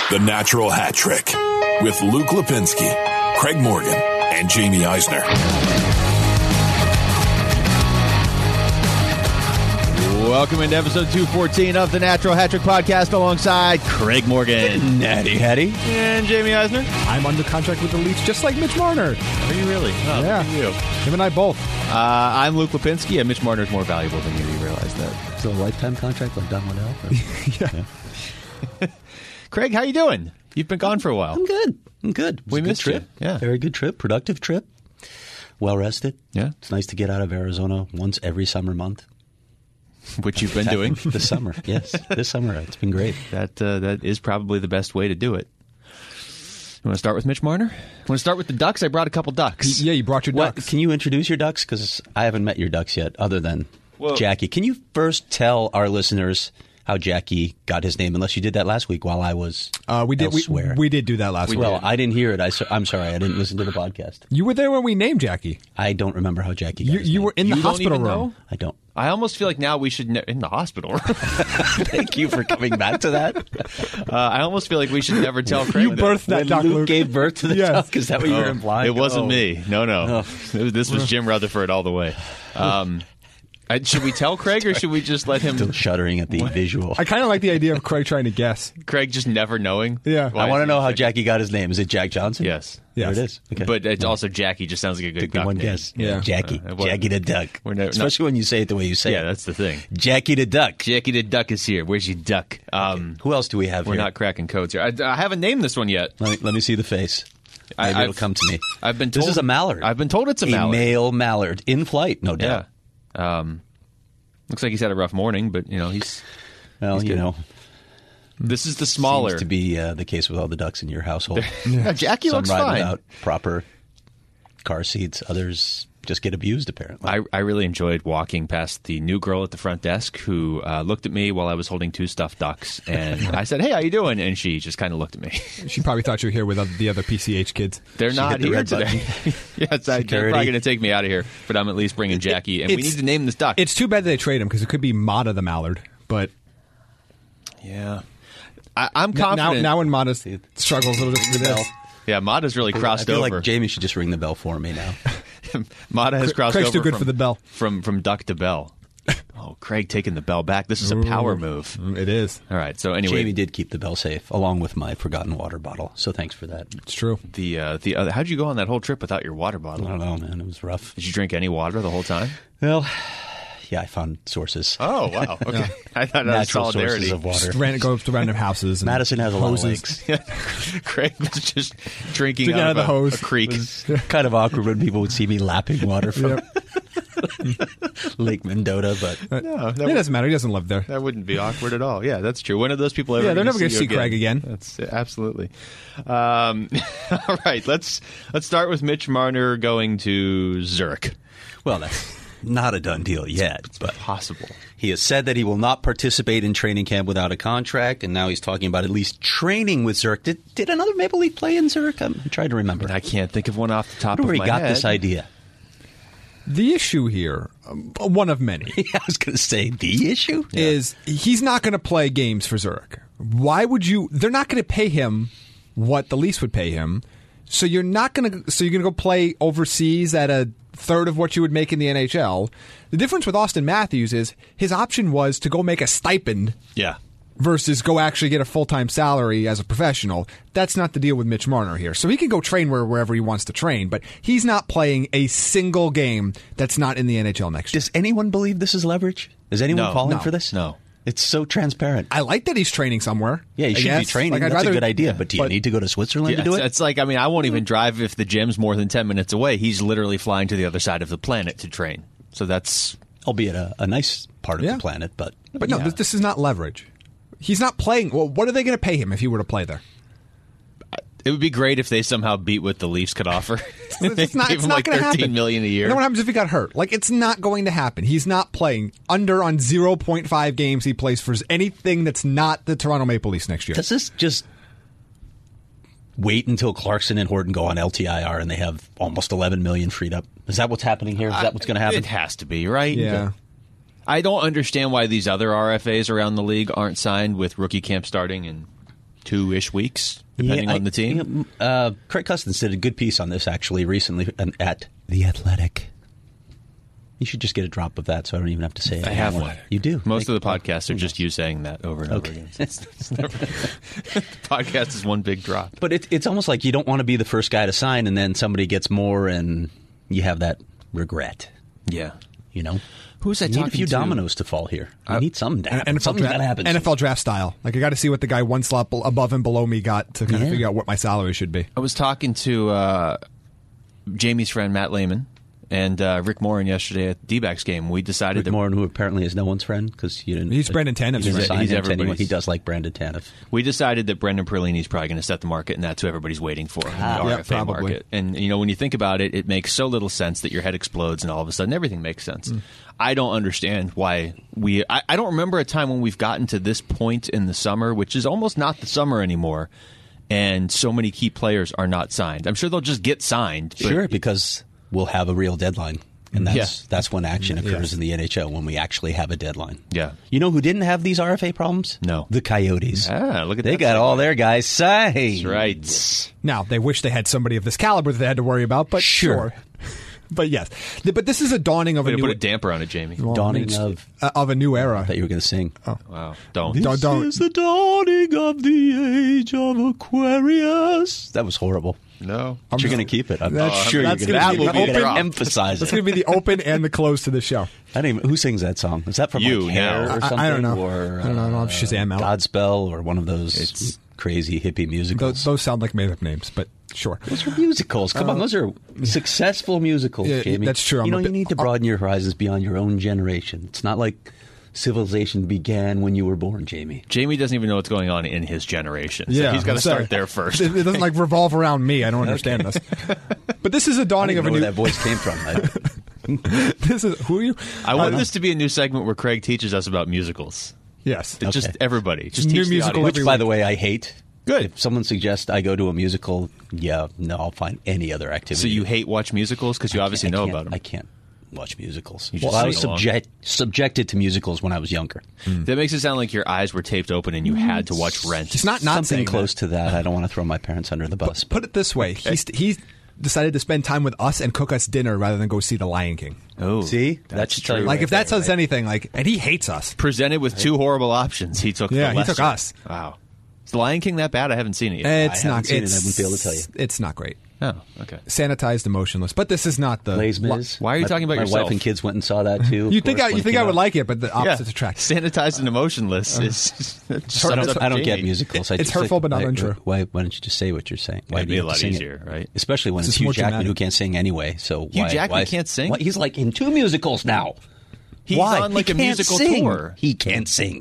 The Natural Hat Trick with Luke Lipinski, Craig Morgan, and Jamie Eisner. Welcome into episode 214 of the Natural Hat Trick podcast alongside Craig Morgan, Natty Hattie, and Jamie Eisner. I'm under contract with the Leafs just like Mitch Marner. Are you really? Oh, yeah. Look at you. Him and I both. I'm Luke Lipinski, and Mitch Marner is more valuable than you. You realize that? So a lifetime contract like Don Waddell? Yeah. Craig, how you doing? You've been gone for a while. I'm good. It was We a good missed trip. you. Yeah. Very good trip. Productive trip. Well rested. Yeah. It's nice to get out of Arizona once every summer month. Which you've been doing. This summer. Yes. This summer. It's been great. That is probably the best way to do it. You want to start with Mitch Marner? Want to start with the Ducks? I brought a couple Ducks. Yeah, you brought your ducks. Can you introduce your Ducks? Because I haven't met your Ducks yet, other than Well- Jackie. Can you first tell our listeners how Jackie got his name, unless you did that last week while I was We did. elsewhere? We did do that last week. Well, I didn't hear it. I'm sorry. I didn't listen to the podcast. You were there when we named Jackie. I don't remember how Jackie got his You name. were in the You don't hospital even room. know? I don't. I almost feel like now we should in the hospital. Thank you for coming back to that. I almost feel like we should never tell Craig. You birthed that When duck, Luke Luke. gave birth to the Yes. duck, is that what you were implying? It wasn't Oh. me. No. Oh. This was Jim Rutherford all the way. Should we tell Craig or should we just let him? Still shuddering at the visual. I kind of like the idea of Craig trying to guess. Craig just never knowing. Yeah. Why I want to is know he how sick? Jackie got his name. Is it Jack Johnson? Yes. There Yes. it is. Okay. But it's also Jackie. Just sounds like a good Took me duck one name. guess. Yeah. Jackie. well, Jackie the duck. we're no- Especially when you say it the way you say Yeah, it. that's the thing. Jackie the duck. Jackie the duck is here. Where's your duck? Who else do we have We're here? not cracking codes here. I haven't named this one yet. Let me see the face. Maybe it'll come to me. I've been told This is a mallard. I've been told it's a mallard. male mallard. In flight, no doubt. Yeah. Looks like he's had a rough morning, but he's. Well, He's you good. know, This is the smaller. seems to be the case with all the ducks in your household. Yeah, Jackie Some looks ride fine. without proper car seats. Others just get abused, apparently. I really enjoyed walking past the new girl at the front desk who looked at me while I was holding two stuffed ducks, and I said, "Hey, how you doing?" And she just kind of looked at me. She probably thought you were here with the other PCH kids. They're She not hit the here red today. Yes, they're Security. probably going to take me out of here, but I'm at least bringing Jackie, and we it's- need to name this duck. It's too bad they trade him because it could be Mata the Mallard. But Yeah, I'm confident. now when Mata struggles with this, Yeah, Mata's really I crossed feel over. like Jamie should just ring the bell for me now. Mata has crossed Craig's over too good from, for the bell. From duck to bell. Oh, Craig taking the bell back. This is a power move. it is. All right. So anyway, Jamie did keep the bell safe, along with my forgotten water bottle. So thanks for that. It's true. the other. How'd you go on that whole trip without your water I bottle? don't know, man. It was rough. Did you drink any water the whole time? Well, yeah, I found sources. Oh wow. Okay. I thought that was Natural solidarity. sources of water. Go up to random houses. And Madison has a lot of hoses. lakes. Craig was just drinking Drinking out out of the hose. a creek. Kind of awkward when people would see me lapping water from Lake Mendota, but No, It doesn't matter. He doesn't live there. that wouldn't be awkward at all. Yeah, that's true. When are those people ever? Yeah, they're never going gonna to see Craig again. That's absolutely. All right, let's start with Mitch Marner going to Zurich. well, that's not a done deal yet. But Possible. he has said that he will not participate in training camp without a contract, and now he's talking about at least training with Zurich. Did another Maple Leaf play in Zurich? I'm trying to remember. I can't think of one off the top I of wonder my where he got head. this idea. The issue here, one of many, I was going to say the issue is he's not going to play games for Zurich. Why would you? They're not going to pay him what the Leafs would pay him. So you're not going to. So you're going to go play overseas at a third of what you would make in the NHL. The difference with Austin Matthews is his option was to go make a stipend Yeah. versus go actually get a full-time salary as a professional. That's not the deal with Mitch Marner here. So he can go train wherever he wants to train, but he's not playing a single game that's not in the NHL next year. Does anyone believe this is leverage? Is anyone No. falling No. for this? No. It's so transparent. I like that he's training somewhere. Yeah, you I should be guess. training. Like, I'd That's rather- a good idea. But do you but- need to go to Switzerland Yeah, to do it? it's like, I won't even drive if the gym's more than 10 minutes away. He's literally flying to the other side of the planet to train. So that's... Albeit a nice part of Yeah. the planet, but no, yeah. this is not leverage. He's not playing. Well, what are they going to pay him if he were to play there? It would be great if they somehow beat what the Leafs could offer. It's not. Gave It's him not like going to $13 happen. million a year. You know what happens if he got hurt? Like, it's not going to happen. He's not playing under on 0.5 games he plays for anything that's not the Toronto Maple Leafs next year. Does this just wait until Clarkson and Horton go on LTIR and they have almost $11 million freed up? Is that what's happening here? Is that what's going to happen? It has to be, right? Yeah. I don't understand why these other RFAs around the league aren't signed with rookie camp starting in 2-ish weeks, depending on the team. Craig Custance did a good piece on this actually recently at The Athletic. You should just get a drop of that so I don't even have to say it. I have one. You do. Most of the podcasts are just you saying that over and over again. It's never, the podcast is one big drop. But it's almost like you don't want to be the first guy to sign and then somebody gets more and you have that regret. Yeah. You know? Who's I You talking need a few to? dominoes to fall here. You need something to happen. Something's got to happen. NFL draft style. Like, I got to see what the guy one slot above and below me got to kind of figure out what my salary should be. I was talking to Jamie's friend Matt Lehman and Rick Morin yesterday at the D-backs game. We decided Rick Morin, who apparently is no one's friend because you didn't. He's Brandon Tanev's friend. He's everybody's. He does like Brandon Tanev. We decided that Brendan Perlini is probably going to set the market, and that's who everybody's waiting for in the RFA market. And you know, when you think about it, it makes so little sense that your head explodes, and all of a sudden everything makes sense. I don't understand why I don't remember a time when we've gotten to this point in the summer, which is almost not the summer anymore, and so many key players are not signed. I'm sure they'll just get signed. Sure, because we'll have a real deadline. And that's when action occurs in the NHL, when we actually have a deadline. Yeah. You know who didn't have these RFA problems? No. The Coyotes. Look at they that. got all their guys signed. That's right. Now, they wish they had somebody of this caliber that they had to worry about, but sure. But yes. But this is a dawning of Way a to new... put a damper on it, Jamie. Dawning of a new era. I thought you were going to sing. Oh. Wow. Don't. This is the dawning of the age of Aquarius. That was horrible. No. But you're going to keep it. I'm That's- sure that's you're gonna going be to open- emphasize That's it. going to be the open and the close to the show. Who sings that song? Is that from You, like Hair now. or something? I don't know. Or, I don't know. I don't have Shazam out. Godspell or one of those crazy hippie musicals. Those sound like made-up names, but sure. Those are musicals. Come on, those are successful musicals, Yeah, Jamie. that's true. You need to broaden your horizons beyond your own generation. It's not like civilization began when you were born, Jamie. Jamie doesn't even know what's going on in his generation. So Yeah, he's got to so start there first. It doesn't like revolve around me. I don't understand this. But this is a I dawning don't of know a where new. that voice came from. This is who are you? I want this to be a new segment where Craig teaches us about musicals. Yes. Just everybody. Just New teach the musical audience. Which, by the way, I hate. Good. If someone suggests I go to a musical, I'll find any other activity. So you hate watch musicals because you obviously know about them. I can't watch musicals. You just I was sing along. subjected to musicals when I was younger. That makes it sound like your eyes were taped open and you had to watch Rent. It's not Something saying close that. to that. I don't want to throw my parents under the bus. Put it this way: he's decided to spend time with us and cook us dinner rather than go see The Lion King. Oh, See? that's That should tell you true. Like, right if that there, says right? anything, and he hates us. Presented with two horrible options, he took. Yeah, the he took lesser. us. Wow. Is The Lion King that bad? I haven't seen it yet. It's haven't not. seen it. It's, I wouldn't be able to tell you. It's not great. Oh, okay. Sanitized, emotionless. But this is not the. Les Mis. Why are you talking about my yourself? My wife and kids went and saw that too. You think I would like it, but the Yeah. opposites attract. Sanitized and emotionless is. I don't get musicals. It's hurtful, but not untrue. Why don't you just say what you're saying? Why It'd do be you a have lot to sing it? easier, right? Especially when It's it's just more Hugh Jackman dramatic. who can't sing anyway. So Hugh Jackman can't sing? He's like in 2 musicals now. He's Why? on like He a can't musical sing. tour. He can't sing.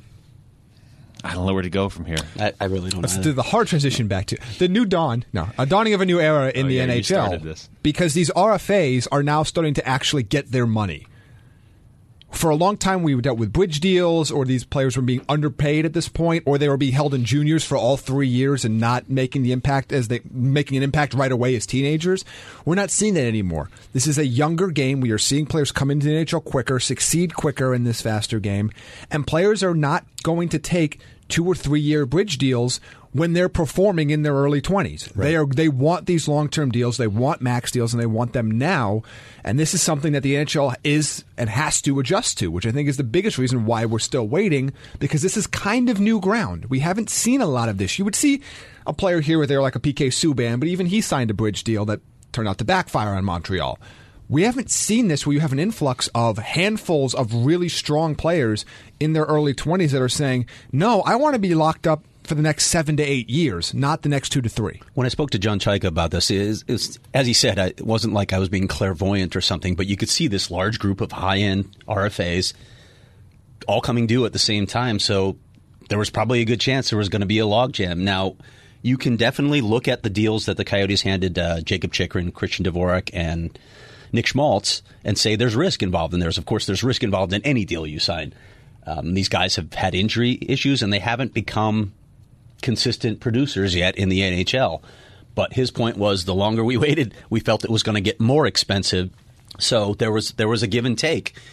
I don't know where to go from here. I really don't Let's know. do the hard transition back to the new dawn. No, a dawning of a new era in Oh, the yeah, you NHL started this. because these RFAs are now starting to actually get their money. For a long time, we dealt with bridge deals, or these players were being underpaid at this point, or they were being held in juniors for all 3 years and not making the impact making an impact right away as teenagers. We're not seeing that anymore. This is a younger game. We are seeing players come into the NHL quicker, succeed quicker in this faster game, and players are not going to take 2 or 3 year bridge deals when they're performing in their early 20s. Right. They want these long-term deals, they want max deals, and they want them now. And this is something that the NHL is and has to adjust to, which I think is the biggest reason why we're still waiting, because this is kind of new ground. We haven't seen a lot of this. You would see a player here or there like a PK Subban, but even he signed a bridge deal that turned out to backfire on Montreal. We haven't seen this where you have an influx of handfuls of really strong players in their early 20s that are saying, no, I want to be locked up for the next 7 to 8 years, not the next 2 to 3. When I spoke to John Chaika about this, as he said, it wasn't like I was being clairvoyant or something, but you could see this large group of high-end RFAs all coming due at the same time. So there was probably a good chance there was going to be a logjam. Now, you can definitely look at the deals that the Coyotes handed Jacob Chychrun, Christian Dvorak, and Nick Schmaltz and say there's risk involved in theirs. Of course, there's risk involved in any deal you sign. These guys have had injury issues, and they haven't become consistent producers yet in the NHL. But his point was the longer we waited, we felt it was going to get more expensive. So there was a give and take.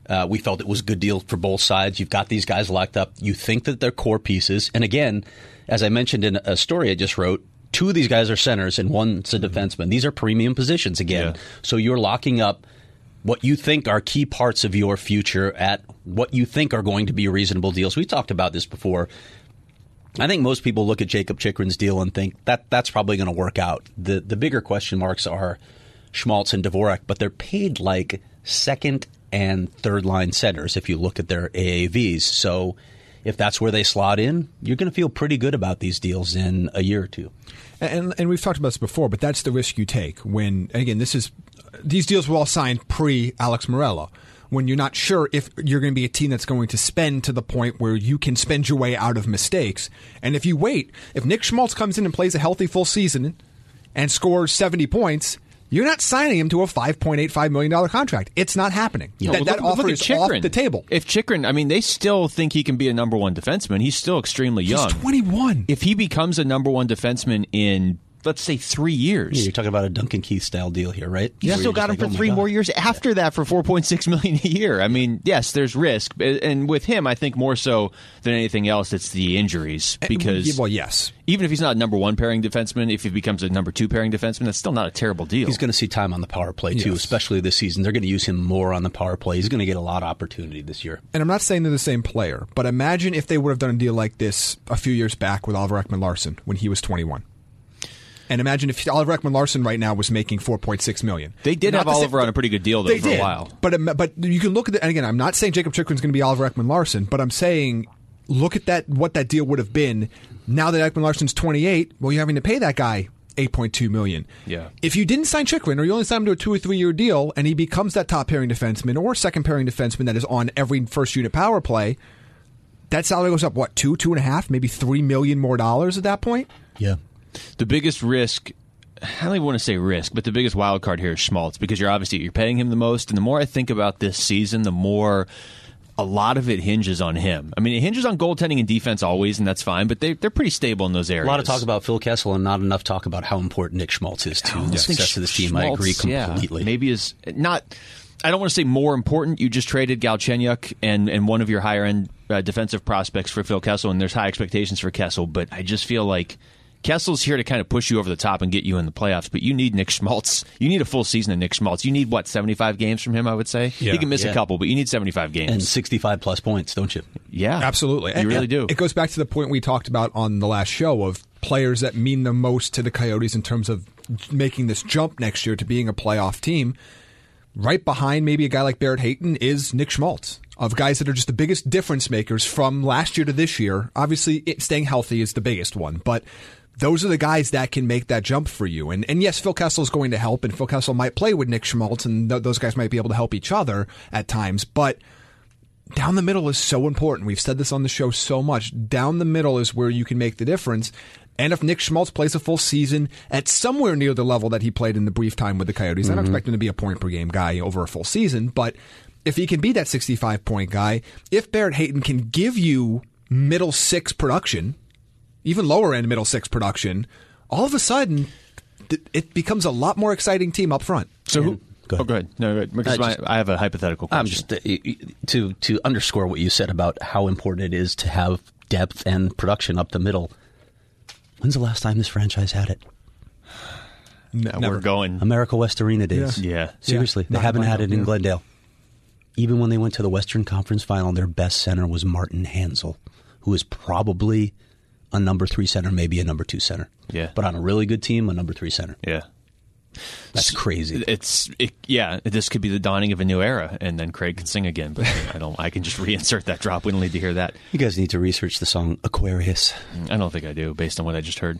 We felt it was a good deal for both sides. You've got these guys locked up. You think that they're core pieces. And again, as I mentioned in a story I just wrote, 2 of these guys are centers and one's a defenseman. These are premium positions again. Yeah. So you're locking up what you think are key parts of your future at what you think are going to be reasonable deals. We talked about this before. I think most people look at Jakob Chychrun's deal and think that's probably going to work out. The bigger question marks are Schmaltz and Dvorak, but they're paid like second and third line centers if you look at their AAVs. So if that's where they slot in, you're going to feel pretty good about these deals in a year or two. And we've talked about this before, but that's the risk you take when, again, these deals were all signed pre-Alex Morello, when you're not sure if you're going to be a team that's going to spend to the point where you can spend your way out of mistakes. And if you wait, if Nick Schmaltz comes in and plays a healthy full season and scores 70 points, you're not signing him to a $5.85 million contract. It's not happening. Yeah. That offer is off the table. If Chychrun, I mean, they still think he can be a number 1 defenseman. He's still extremely young. He's 21. If he becomes a number 1 defenseman in, let's say, 3 years. Yeah, you're talking about a Duncan Keith style deal here, right? You still got him for 3 more years after that for $4.6 million a year. I mean, yes, there's risk, and with him, I think more so than anything else, it's the injuries. Because yes, even if he's not a number 1 pairing defenseman, if he becomes a number 2 pairing defenseman, that's still not a terrible deal. He's going to see time on the power play too, especially this season. They're going to use him more on the power play. He's going to get a lot of opportunity this year. And I'm not saying they're the same player, but imagine if they would have done a deal like this a few years back with Oliver Ekman-Larsson when he was 21. And imagine if Oliver Ekman-Larsson right now was making $4.6 million. They did have Oliver on a pretty good deal, though, for a while. But you can look at it, and again, I'm not saying Jakob Chychrun's going to be Oliver Ekman-Larsson, but I'm saying look at what that deal would have been. Now that Ekman-Larsson's 28, well, you're having to pay that guy $8.2 million. Yeah. If you didn't sign Chychrun, or you only signed him to a 2 or 3 year deal, and he becomes that top pairing defenseman or second pairing defenseman that is on every first unit power play, that salary goes up, what, $2.5, maybe $3 million more at that point? Yeah. The biggest risk, I don't even want to say risk, but the biggest wild card here is Schmaltz, because you're paying him the most, and the more I think about this season, the more a lot of it hinges on him. I mean, it hinges on goaltending and defense always, and that's fine, but they're pretty stable in those areas. A lot of talk about Phil Kessel and not enough talk about how important Nick Schmaltz is to the success of this team. I agree completely. Yeah, maybe is not... I don't want to say more important. You just traded Galchenyuk and one of your higher-end defensive prospects for Phil Kessel, and there's high expectations for Kessel, but I just feel like Kessel's here to kind of push you over the top and get you in the playoffs, but you need Nick Schmaltz. You need a full season of Nick Schmaltz. You need, 75 games from him, I would say? Yeah. He can miss a couple, but you need 75 games. And 65-plus points, don't you? Yeah. Absolutely. You really do. It goes back to the point we talked about on the last show of players that mean the most to the Coyotes in terms of making this jump next year to being a playoff team. Right behind maybe a guy like Barrett Hayton is Nick Schmaltz, of guys that are just the biggest difference makers from last year to this year. Obviously, staying healthy is the biggest one, but those are the guys that can make that jump for you. And yes, Phil Kessel is going to help, and Phil Kessel might play with Nick Schmaltz, and those guys might be able to help each other at times. But down the middle is so important. We've said this on the show so much. Down the middle is where you can make the difference. And if Nick Schmaltz plays a full season at somewhere near the level that he played in the brief time with the Coyotes, I don't expect him to be a point-per-game guy over a full season, but if he can be that 65-point guy, if Barrett Hayton can give you middle six production, even lower-end middle six production, all of a sudden, it becomes a lot more exciting team up front. So Go ahead. No, go ahead. Because I have a hypothetical question. To underscore what you said about how important it is to have depth and production up the middle. When's the last time this franchise had it? Never. Going America West Arena days. Yeah. Seriously, they haven't had it in Glendale. Even when they went to the Western Conference Final, their best center was Martin Hansel, who is probably a number 3 center, maybe a number 2 center. Yeah. But on a really good team, a number 3 center. Yeah. That's crazy. This could be the dawning of a new era, and then Craig can sing again. But I can just reinsert that drop. We don't need to hear that. You guys need to research the song Aquarius. I don't think I do, based on what I just heard.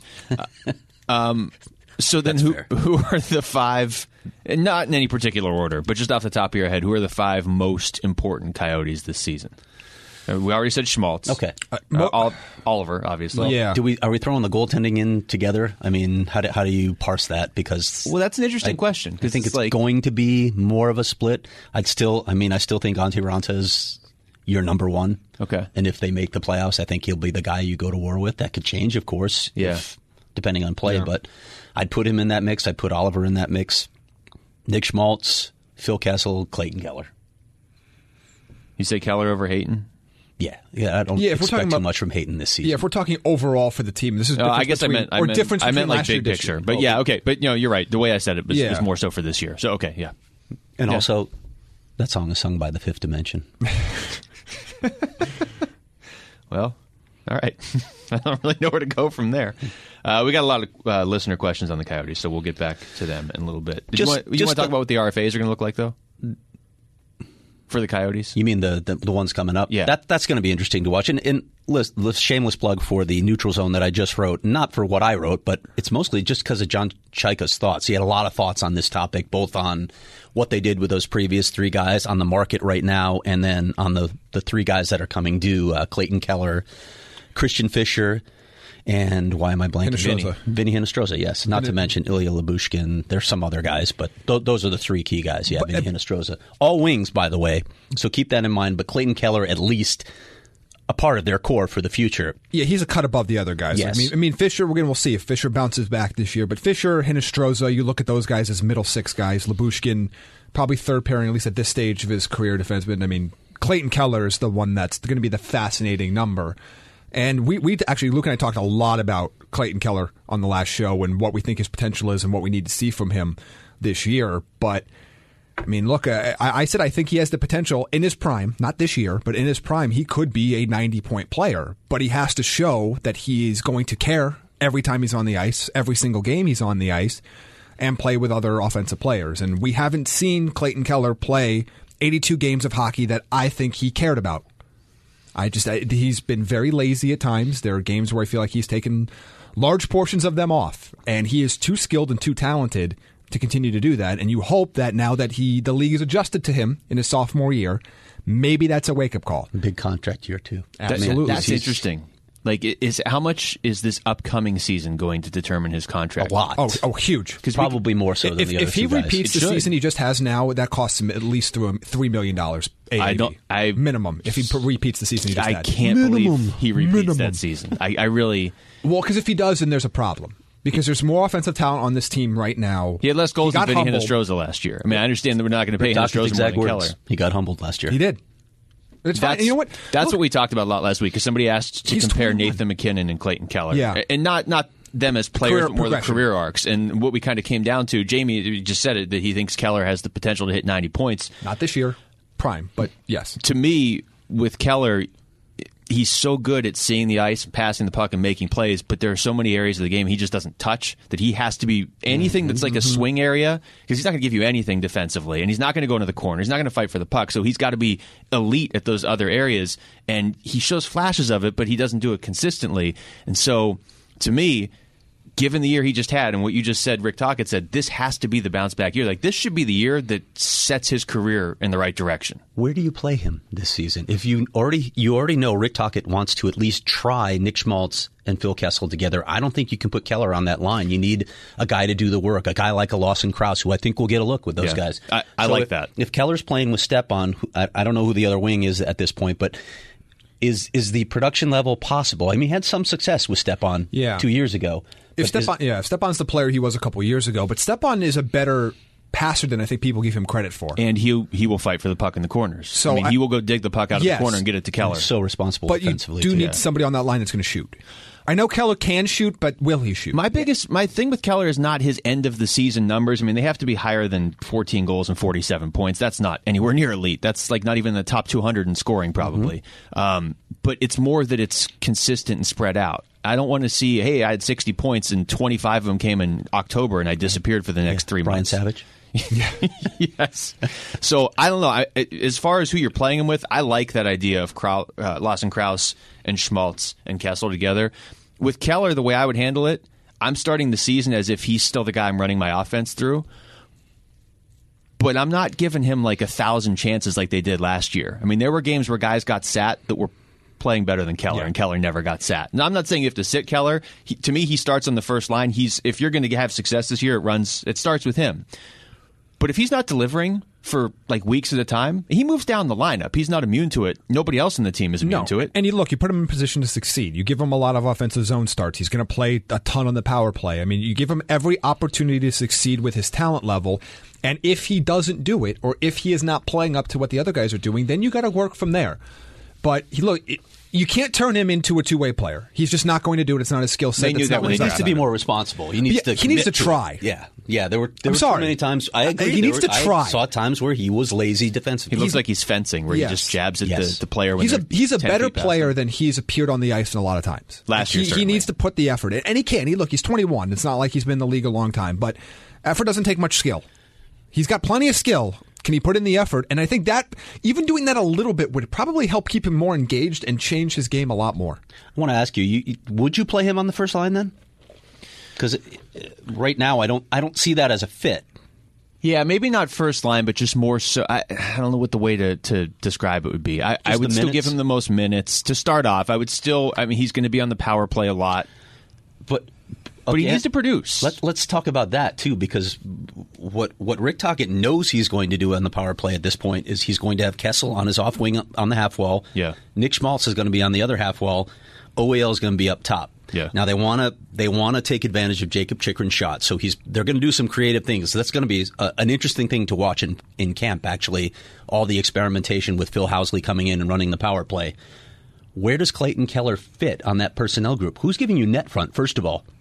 So then, who are the 5? And not in any particular order, but just off the top of your head, who are the 5 most important Coyotes this season? We already said Schmaltz. Okay. Oliver, obviously. Yeah. Are we throwing the goaltending in together? I mean, how do you parse that? Because that's an interesting question. I think it's going to be more of a split. I still think Antti Raanta is your number 1. Okay. And if they make the playoffs, I think he'll be the guy you go to war with. That could change, of course. Yeah. Depending on play, but I'd put him in that mix. I'd put Oliver in that mix. Nick Schmaltz, Phil Kessel, Clayton Keller. You say Keller over Hayton? Yeah. I don't expect too much from Hayton this season. Yeah, if we're talking overall for the team, this is I guess difference I meant like last year, big picture. But yeah, okay. But you're right. The way I said it was more so for this year. So okay, yeah. And also, that song is sung by the Fifth Dimension. Well, all right. I don't really know where to go from there. We got a lot of listener questions on the Coyotes, so we'll get back to them in a little bit. You want to talk about what the RFAs are going to look like, though? For the Coyotes? You mean the ones coming up? Yeah. That's going to be interesting to watch. And shameless plug for the Neutral Zone that I just wrote. Not for what I wrote, but it's mostly just because of John Chaika's thoughts. He had a lot of thoughts on this topic, both on what they did with those previous three guys on the market right now, and then on the three guys that are coming due, Clayton Keller, Christian Fischer, and why am I blanking? Vinny Hinostroza, yes. Not to mention Ilya Lyubushkin. There's some other guys, but those are the three key guys. Yeah, Vinny Hinostroza. All wings, by the way, so keep that in mind. But Clayton Keller, at least a part of their core for the future. Yeah, he's a cut above the other guys. Yes. I mean, Fischer, we'll see if Fischer bounces back this year. But Fischer, Hinostroza, you look at those guys as middle six guys. Lyubushkin, probably third pairing, at least at this stage of his career defenseman. I mean, Clayton Keller is the one that's going to be the fascinating number. And we actually, Luke and I talked a lot about Clayton Keller on the last show and what we think his potential is and what we need to see from him this year. But, I mean, look, I said I think he has the potential in his prime, not this year, but in his prime, he could be a 90-point player. But he has to show that he is going to care every time he's on the ice, every single game he's on the ice, and play with other offensive players. And we haven't seen Clayton Keller play 82 games of hockey that I think he cared about. He's been very lazy at times. There are games where I feel like he's taken large portions of them off, and he is too skilled and too talented to continue to do that. And you hope that now that the league is adjusted to him in his sophomore year, maybe that's a wake-up call. Big contract year, too. Absolutely. That's interesting. Like, how much is this upcoming season going to determine his contract? A lot. Oh, huge. Probably more so than the other two guys. If he repeats the season he just has now, that costs him at least $3 million AAV. Minimum. If he repeats the season he just had. I can't believe he repeats that season. I really... Well, because if he does, then there's a problem. Because there's more offensive talent on this team right now. He had less goals than Vinny Hinostroza last year. I mean, I understand that we're not going to pay Hinostroza more than Keller. He got humbled last year. He did. It's fine. You know what? That's what we talked about a lot last week, because somebody asked to compare 21. Nathan McKinnon and Clayton Keller. Yeah. And not them as players, but more the career arcs. And what we kind of came down to, Jamie just said it, that he thinks Keller has the potential to hit 90 points. Not this year, prime, but yes. To me, with Keller, he's so good at seeing the ice and passing the puck and making plays, but there are so many areas of the game he just doesn't touch that he has to be anything that's like a swing area, because he's not going to give you anything defensively, and he's not going to go into the corner. He's not going to fight for the puck, so he's got to be elite at those other areas, and he shows flashes of it, but he doesn't do it consistently. And so, to me, given the year he just had and what you just said, Rick Tocchet said, this has to be the bounce-back year. Like, this should be the year that sets his career in the right direction. Where do you play him this season? If you already know Rick Tocchet wants to at least try Nick Schmaltz and Phil Kessel together, I don't think you can put Keller on that line. You need a guy to do the work, a guy like a Lawson Krause, who I think will get a look with those guys. I like that. If Keller's playing with Stepan, I don't know who the other wing is at this point, but... Is the production level possible? I mean, he had some success with Stepan 2 years ago. If Stepan's the player he was a couple years ago, but Stepan is a better passer than I think people give him credit for. And he will fight for the puck in the corners. So I mean, he will go dig the puck out of the corner and get it to Keller. He's so responsible defensively. But you do need somebody on that line that's going to shoot. I know Keller can shoot, but will he shoot? My thing with Keller is not his end of the season numbers. I mean, they have to be higher than 14 goals and 47 points. That's not anywhere near elite. That's like not even the top 200 in scoring probably. But it's more that it's consistent and spread out. I don't want to see, hey, I had 60 points and 25 of them came in October and I disappeared for the next 3 months. Brian Savage? Yes. So I don't know. As far as who you're playing him with, I like that idea of Lawson Krause and Schmaltz and Kessel together. With Keller, the way I would handle it, I'm starting the season as if he's still the guy I'm running my offense through. But I'm not giving him like 1,000 chances like they did last year. I mean, there were games where guys got sat that were playing better than Keller, and Keller never got sat. Now, I'm not saying you have to sit Keller. To me, he starts on the first line. If you're going to have success this year, it starts with him. But if he's not delivering for like weeks at a time, he moves down the lineup. He's not immune to it. Nobody else in the team is immune to it. And you put him in position to succeed. You give him a lot of offensive zone starts. He's going to play a ton on the power play. I mean, you give him every opportunity to succeed with his talent level. And if he doesn't do it, or if he is not playing up to what the other guys are doing, then you got to work from there. But you can't turn him into a two-way player. He's just not going to do it. It's not his skill set. He needs to be more responsible. He needs to try. Yeah. There were too many times. I agree. He needs to try. I saw times where he was lazy defensively. He looks like he's fencing, where he just jabs at the player. When he's a better player than he's appeared on the ice in a lot of times. Last year, he needs to put the effort in, and he can. He's 21. It's not like he's been in the league a long time, but effort doesn't take much skill. He's got plenty of skill. Can he put in the effort? And I think that even doing that a little bit would probably help keep him more engaged and change his game a lot more. I want to ask you, would you play him on the first line then? Because right now I don't see that as a fit. Yeah, maybe not first line, but just more so. I don't know what the way to describe it would be. I would still give him the most minutes to start off. He's going to be on the power play a lot. But he needs to produce. Let's talk about that, too, because what Rick Tocchet knows he's going to do on the power play at this point is he's going to have Kessel on his off wing on the half wall. Yeah. Nick Schmaltz is going to be on the other half wall. OEL is going to be up top. Yeah. Now, they want to take advantage of Jacob Chychrun's shot, so they're going to do some creative things. So that's going to be an interesting thing to watch in camp, actually, all the experimentation with Phil Housley coming in and running the power play. Where does Clayton Keller fit on that personnel group? Who's giving you net front, first of all?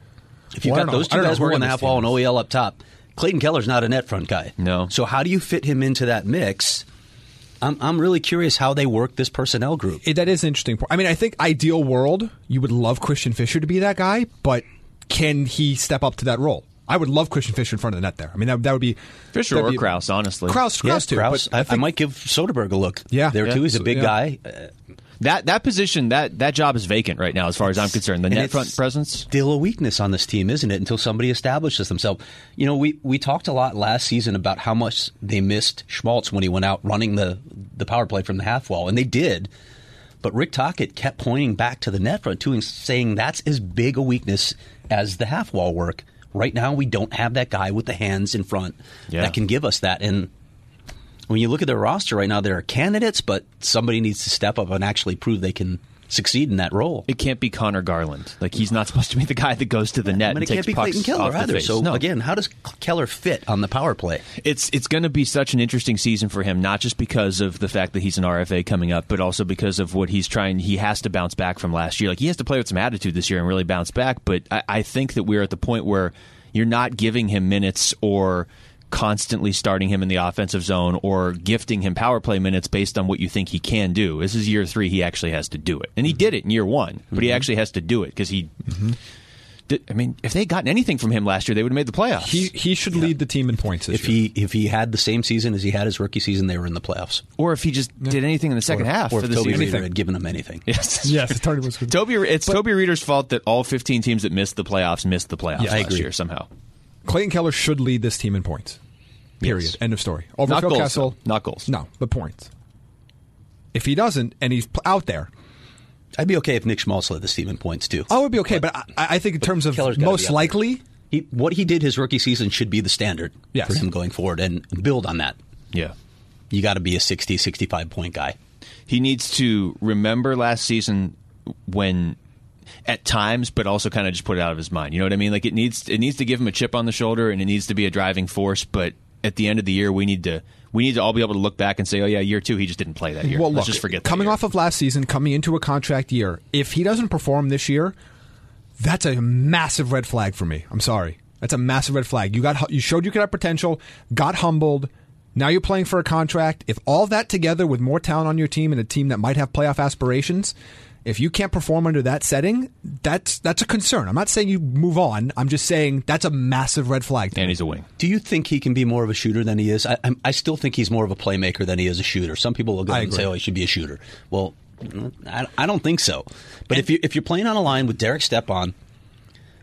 If you've got those two guys working the half wall and OEL up top, Clayton Keller's not a net front guy. No. So how do you fit him into that mix? I'm really curious how they work this personnel group. That is an interesting point. I mean, I think ideal world, you would love Christian Fischer to be that guy, but can he step up to that role? I would love Christian Fischer in front of the net there. I mean, that would be Fischer or Krause, honestly. Krause too. Krause. I might give Soderberg a look. Yeah, there too. He's a big guy. That position, that job is vacant right now, as far as I'm concerned. The net front presence, still a weakness on this team, isn't it? Until somebody establishes themselves. You know, we talked a lot last season about how much they missed Schmaltz when he went out running the power play from the half wall, and they did. But Rick Tocchet kept pointing back to the net front too, and saying that's as big a weakness as the half wall work. Right now, we don't have that guy with the hands in front that can give us that. And when you look at their roster right now, there are candidates, but somebody needs to step up and actually prove they can succeed in that role. It can't be Connor Garland. Like, he's not supposed to be the guy that goes to the net and takes pucks off the face. It can't be Clayton Keller either. So, again, how does Keller fit on the power play? It's going to be such an interesting season for him, not just because of the fact that he's an RFA coming up, but also because of what he's trying. He has to bounce back from last year. Like, he has to play with some attitude this year and really bounce back, but I think that we're at the point where you're not giving him minutes or constantly starting him in the offensive zone or gifting him power play minutes based on what you think he can do. This is year 3. He actually has to do it. And he did it in year 1, but he actually has to do it because he did. I mean, if they had gotten anything from him last year, they would have made the playoffs. He should lead the team in points this year. If he had the same season as he had his rookie season, they were in the playoffs. Or if he just did anything in the second half. Or if Toby Reeder had given him anything. Yes. Tony was good. It's Toby Reeder's fault that all 15 teams that missed the playoffs last year somehow. Clayton Keller should lead this team in points. Period. Yes. End of story. Over not Phil goals, Kessel. though. Not goals. No, but points. If he doesn't, and he's out there, I'd be okay if Nick Schmaltz led this team in points too. I would be okay, but I think in terms of most likely, what he did his rookie season should be the standard for him going forward and build on that. Yeah, you got to be a 60, 65 point guy. He needs to remember last season when, at times, but also kind of just put it out of his mind. You know what I mean? Like it needs to give him a chip on the shoulder, and it needs to be a driving force. But at the end of the year, we need to all be able to look back and say, oh yeah, year 2 he just didn't play that year. Well, let's just forget that. Coming off of last season, coming into a contract year, if he doesn't perform this year, that's a massive red flag for me. I'm sorry, that's a massive red flag. You showed you could have potential, got humbled. Now you're playing for a contract. If all that together with more talent on your team and a team that might have playoff aspirations, if you can't perform under that setting, that's a concern. I'm not saying you move on. I'm just saying that's a massive red flag. And he's a wing. Do you think he can be more of a shooter than he is? I still think he's more of a playmaker than he is a shooter. Some people will go and say, oh, he should be a shooter. Well, I don't think so. But if you're playing on a line with Derek Stepan,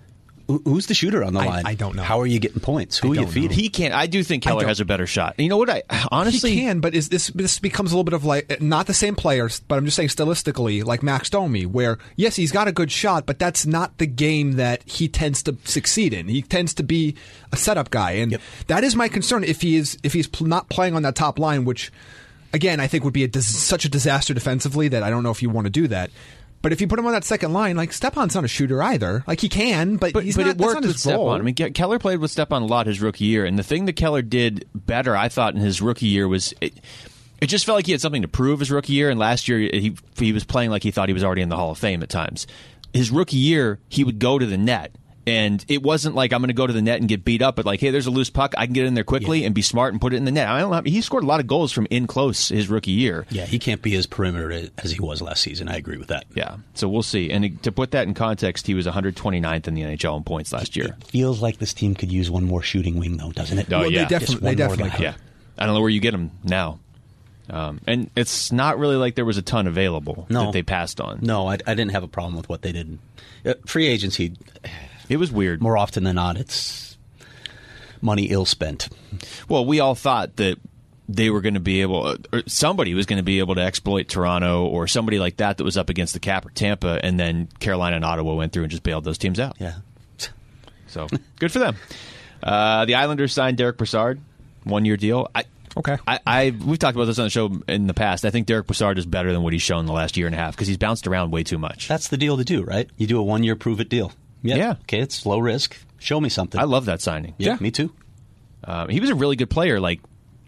Who's the shooter on the line? I don't know. How are you getting points? Who are you feeding? He can't. I do think Keller has a better shot. You know what? I honestly he can, but this becomes a little bit of like not the same players, but I'm just saying stylistically, like Max Domi, where yes, he's got a good shot, but that's not the game that he tends to succeed in. He tends to be a setup guy, and that is my concern if he's not playing on that top line, which again I think would be such a disaster defensively that I don't know if you want to do that. But if you put him on that second line, like Stepan's not a shooter either. Like he can, but he's not. It worked not his with Stepan. role. I mean, Keller played with Stepan a lot his rookie year, and the thing that Keller did better, I thought, in his rookie year was it just felt like he had something to prove his rookie year. And last year he was playing like he thought he was already in the Hall of Fame at times. His rookie year, he would go to the net. And it wasn't like I'm going to go to the net and get beat up, but like, hey, there's a loose puck. I can get in there quickly and be smart and put it in the net. I don't know. He scored a lot of goals from in close his rookie year. Yeah, he can't be as perimeter as he was last season. I agree with that. Yeah, so we'll see. And to put that in context, he was 129th in the NHL in points last year. It feels like this team could use one more shooting wing, though, doesn't it? Oh, yeah. They definitely could. Yeah. I don't know where you get him now. And it's not really like there was a ton available that they passed on. No, I didn't have a problem with what they did. Free agency... It was weird. More often than not, it's money ill spent. Well, we all thought that they were going to be able, or somebody was going to be able to exploit Toronto or somebody like that was up against the cap or Tampa, and then Carolina and Ottawa went through and just bailed those teams out. Yeah. So, good for them. The Islanders signed Derek Brassard, 1-year deal. Okay. We've talked about this on the show in the past. I think Derek Brassard is better than what he's shown the last year and a half because he's bounced around way too much. That's the deal to do, right? You do a 1-year prove-it deal. Yeah. Okay, it's low risk. Show me something. I love that signing. Yeah, me too. He was a really good player like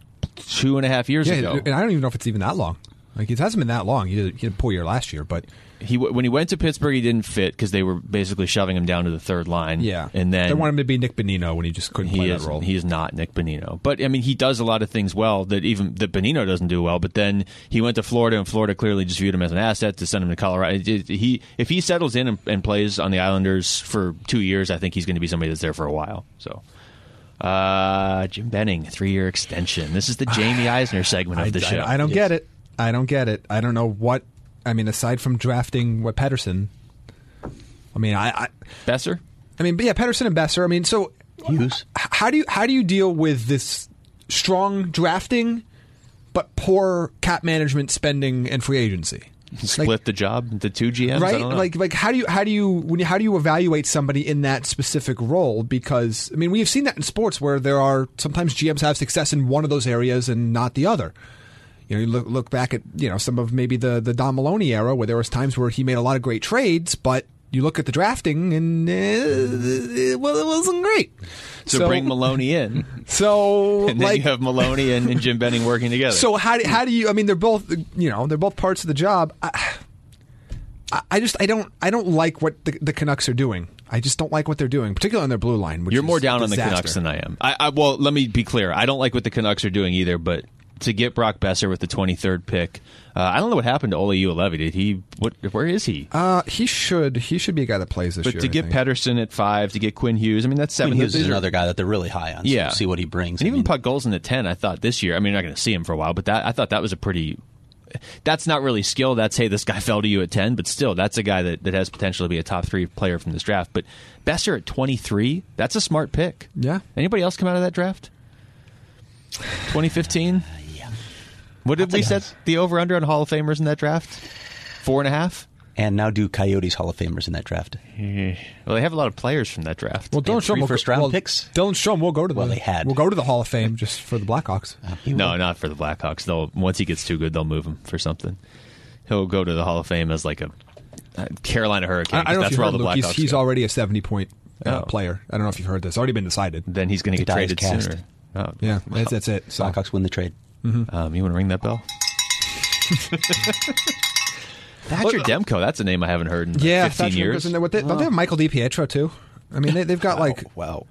2.5 years ago. And I don't even know if it's even that long. Like it hasn't been that long. He had a poor year last year, but when he went to Pittsburgh, he didn't fit because they were basically shoving him down to the third line. Yeah, and then they wanted him to be Nick Bonino when he just couldn't play that role. He is not Nick Bonino, but I mean, he does a lot of things well that Bonino doesn't do well. But then he went to Florida, and Florida clearly just viewed him as an asset to send him to Colorado. If he settles in and plays on the Islanders for 2 years, I think he's going to be somebody that's there for a while. So. Jim Benning, 3-year extension. This is the Jamie Eisner segment of the show. I don't get it. I don't get it. I don't know what. I mean, aside from drafting Pettersson, I mean, Besser. I mean, yeah, Pettersson and Besser. I mean, so Hughes. How do you deal with this strong drafting, but poor cap management, spending, and free agency? Split the job into 2 GMs, right? I don't know. Like how do you evaluate somebody in that specific role? Because I mean, we have seen that in sports where there are sometimes GMs have success in one of those areas and not the other. You know, you look back at some of maybe the Don Maloney era where there was times where he made a lot of great trades, but you look at the drafting and it wasn't great. So bring Maloney in. So and then you have Maloney and Jim Benning working together. So how do you? I mean, they're both parts of the job. I don't like what the Canucks are doing. I just don't like what they're doing, particularly on their blue line. Which You're more down on the Canucks than I am. Well, let me be clear. I don't like what the Canucks are doing either, but to get Brock Besser with the 23rd pick, I don't know what happened to Ole Ulevi. Did he? Where is he? He should be a guy that plays this year. But to get Pettersson at 5, to get Quinn Hughes, I mean that's 7. Quinn Hughes is another guy that they're really high on. So yeah, we'll see what he brings. And even Puck Golson at 10, I thought this year. I mean, you're not going to see him for a while, but I thought that was a pretty. That's not really skill. That's, hey, this guy fell to you at 10, but still, that's a guy that has potential to be a top 3 player from this draft. But Besser at 23, that's a smart pick. Yeah. Anybody else come out of that draft? 2015? Yeah. What did we set the over-under on Hall of Famers in that draft? 4.5? And now do Coyotes Hall of Famers in that draft. Well, they have a lot of players from that draft. Well, Dylan Strome first-round picks. Dylan Strome will go to we'll go to the Hall of Fame just for the Blackhawks. No, not for the Blackhawks. Once he gets too good, they'll move him for something. He'll go to the Hall of Fame as like a Carolina Hurricane. I don't know that's if you where heard, all the Luke, Blackhawks he's go. already a 70-point player. I don't know if you've heard this. Already been decided. Then he's going to get traded sooner. Oh, yeah, that's it. So. Blackhawks win the trade. Mm-hmm. You want to ring that bell? Thatcher Demko, that's a name I haven't heard in 15 years. Don't they have Michael DiPietro too? I mean, they've got wow.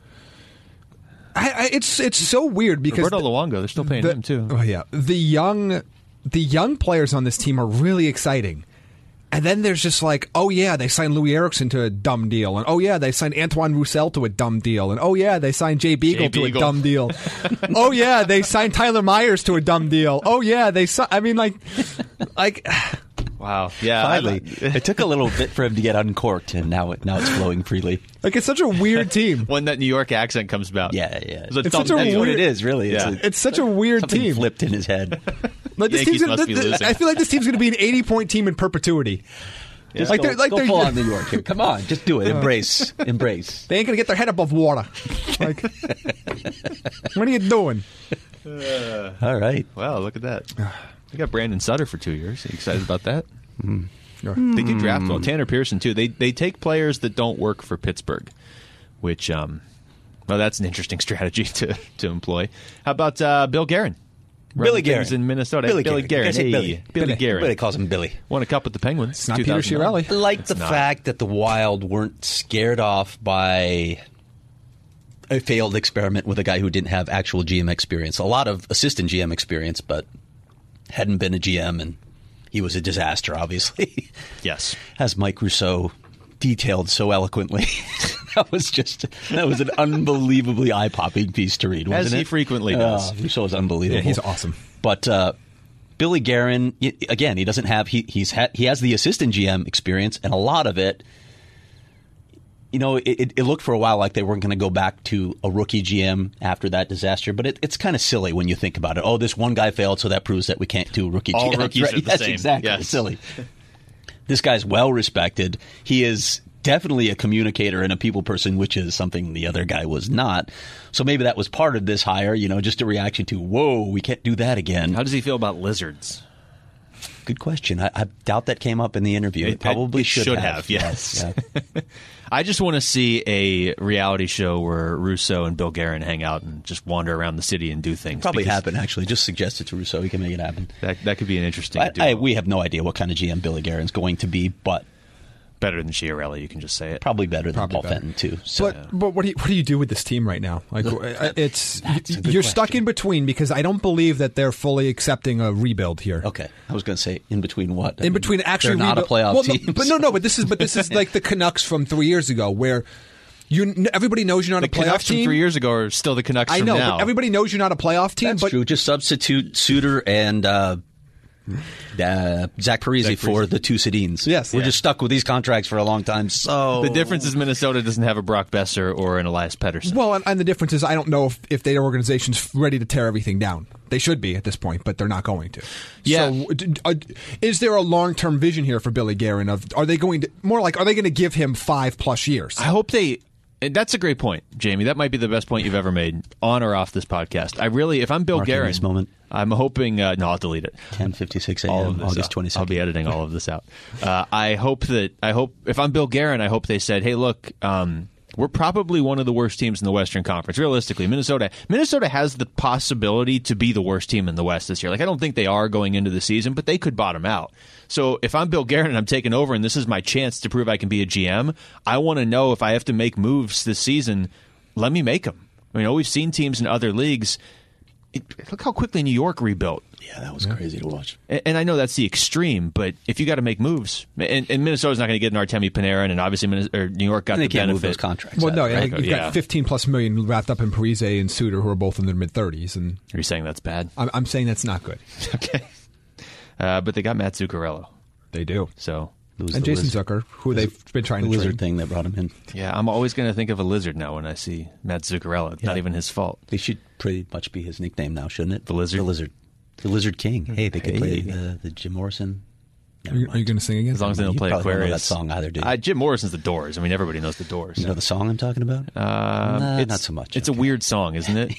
It's so weird because Roberto Luongo, they're still paying him too. Oh yeah, the young players on this team are really exciting. And then there's just like, oh yeah, they signed Louis Eriksson to a dumb deal, and oh yeah, they signed Antoine Roussel to a dumb deal, and oh yeah, they signed Jay Beagle to a dumb deal. Oh yeah, they signed Tyler Myers to a dumb deal. Oh yeah, I mean like Wow. Yeah. Finally. It took a little bit for him to get uncorked, and now it's flowing freely. Like, it's such a weird team. When that New York accent comes about. Yeah. It's such a That's weird, what it is, really. Yeah. It's such a weird something team. flipped in his head. Like, this Yankees team's must be losing. I feel like this team's going to be an 80-point team in perperpetuity. Go full on New York here. Come on, just do it. Embrace. They ain't going to get their head above water. Like, what are you doing? All right. Wow, look at that. They got Brandon Sutter for 2 years. Are you excited about that? They do draft well. Tanner Pearson, too. They take players that don't work for Pittsburgh, which, well, that's an interesting strategy to employ. How about Bill Guerin? Billy Guerin. In Minnesota. Billy Guerin. Hey, Billy Guerin. Everybody calls him Billy. Won a cup with the Penguins. It's not Peter Chiarelli. I like the fact that the Wild weren't scared off by a failed experiment with a guy who didn't have actual GM experience. A lot of assistant GM experience, but hadn't been a GM, and he was a disaster, obviously. Yes. As Mike Rousseau detailed so eloquently. That was an unbelievably eye-popping piece to read, wasn't it? As he frequently does. Rousseau is unbelievable. Yeah, he's awesome. But Billy Guerin, again, he doesn't have he has the assistant GM experience, and a lot of it, it looked for a while like they weren't going to go back to a rookie GM after that disaster. But it's kind of silly when you think about it. Oh, this one guy failed, so that proves that we can't do rookie GM. All rookies are the same. Exactly. Yes. It's silly. This guy's well respected. He is definitely a communicator and a people person, which is something the other guy was not. So maybe that was part of this hire, just a reaction to, whoa, we can't do that again. How does he feel about lizards? Good question. I doubt that came up in the interview. It probably should have. Yes. Yeah. I just want to see a reality show where Rousseau and Bill Guerin hang out and just wander around the city and do things. Probably happen, actually. Just suggest it to Rousseau. He can make it happen. That could be an interesting duo. We have no idea what kind of GM Billy Guerin's going to be, but better than Chiarelli, you can just say it. Probably better than Paul Fenton, too. So. But what do you do with this team right now? Like, you're stuck in between, because I don't believe that they're fully accepting a rebuild here. Okay, I was going to say in between what? In between actually, they're not a playoff team. But this is like the Canucks from 3 years ago, where everybody knows you're not a playoff Canucks team. From 3 years ago are still the Canucks from now. I know, but everybody knows you're not a playoff team. That's true. Just substitute Suter and Zach Parise for the two Sedins. Yes. We're just stuck with these contracts for a long time. So the difference is Minnesota doesn't have a Brock Besser or an Elias Pettersson. Well, and the difference is I don't know if their organization's ready to tear everything down. They should be at this point, but they're not going to. Yeah. So, is there a long-term vision here for Billy Guerin? Are they going to give him 5+ years? I hope they. That's a great point, Jamie. That might be the best point you've ever made on or off this podcast. If I'm Bill Guerin, this moment. I'm hoping. No, I'll delete it. 10:56 a.m. August 22nd. I'll be editing all of this out. I hope if I'm Bill Guerin, I hope they said, "Hey, look, we're probably one of the worst teams in the Western Conference. Realistically, Minnesota has the possibility to be the worst team in the West this year. Like, I don't think they are going into the season, but they could bottom out. So if I'm Bill Guerin and I'm taking over and this is my chance to prove I can be a GM, I want to know if I have to make moves this season, let me make them. We've seen teams in other leagues. Look how quickly New York rebuilt. Yeah, that was crazy to watch. And I know that's the extreme, but if you got to make moves, and Minnesota's not going to get an Artemi Panarin, and obviously New York got the benefit. They can't move those contracts. Well, no, right? you've got $15+ million wrapped up in Parise and Suter, who are both in their mid-30s. And are you saying that's bad? I'm saying that's not good. Okay, but they got Matt Zuccarello. They do. So. And Jason Zucker, who they've been trying to lizard train. thing that brought him in. Yeah, I'm always going to think of a lizard now when I see Matt Zuccarello. It's not even his fault. They should pretty much be his nickname now, shouldn't it? The Lizard? The Lizard. The Lizard King. Hey, they could play the Jim Morrison. Are you going to sing again? As long as they don't play Aquarius. Don't know that song either, do you? Jim Morrison's The Doors. Everybody knows The Doors. You know the song I'm talking about? Not so much. It's a weird song, isn't it?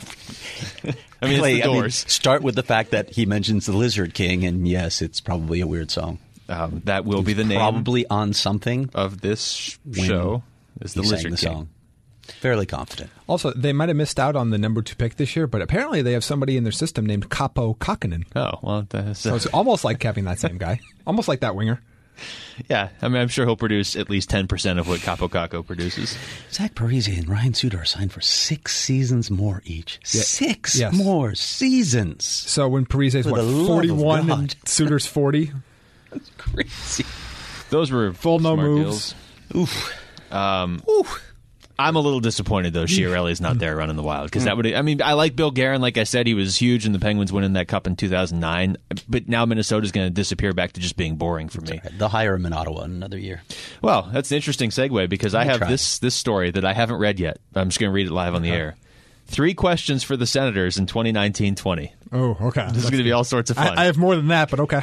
It's The Doors. Start with the fact that he mentions the Lizard King, and yes, it's probably a weird song. That will be the name. Probably on something of this show is the Lizard King. Song. Fairly confident. Also, they might have missed out on the number 2 pick this year, but apparently they have somebody in their system named Kaapo Kähkönen. Oh, well. So it's almost like having that same guy. Almost like that winger. Yeah, I'm sure he'll produce at least 10% of what Kaapo Kähkö produces. Zach Parise and Ryan Suter are signed for 6 seasons more each. Yeah. 6 more seasons. So when Parise's 41 and Suter's 40? That's crazy. Those were full no moves. Deals. Oof. I'm a little disappointed, though, Chiarelli's not there running the Wild. Because that would, I mean, I like Bill Guerin. Like I said, he was huge in the Penguins winning that cup in 2009. But now Minnesota's going to disappear back to just being boring for me. Right. They'll hire him in Ottawa in another year. Well, that's an interesting segue because I have this story that I haven't read yet. I'm just going to read it live on the air. 3 questions for the Senators in 2019-20. Oh, okay. This is going to be all sorts of fun. I have more than that, but okay.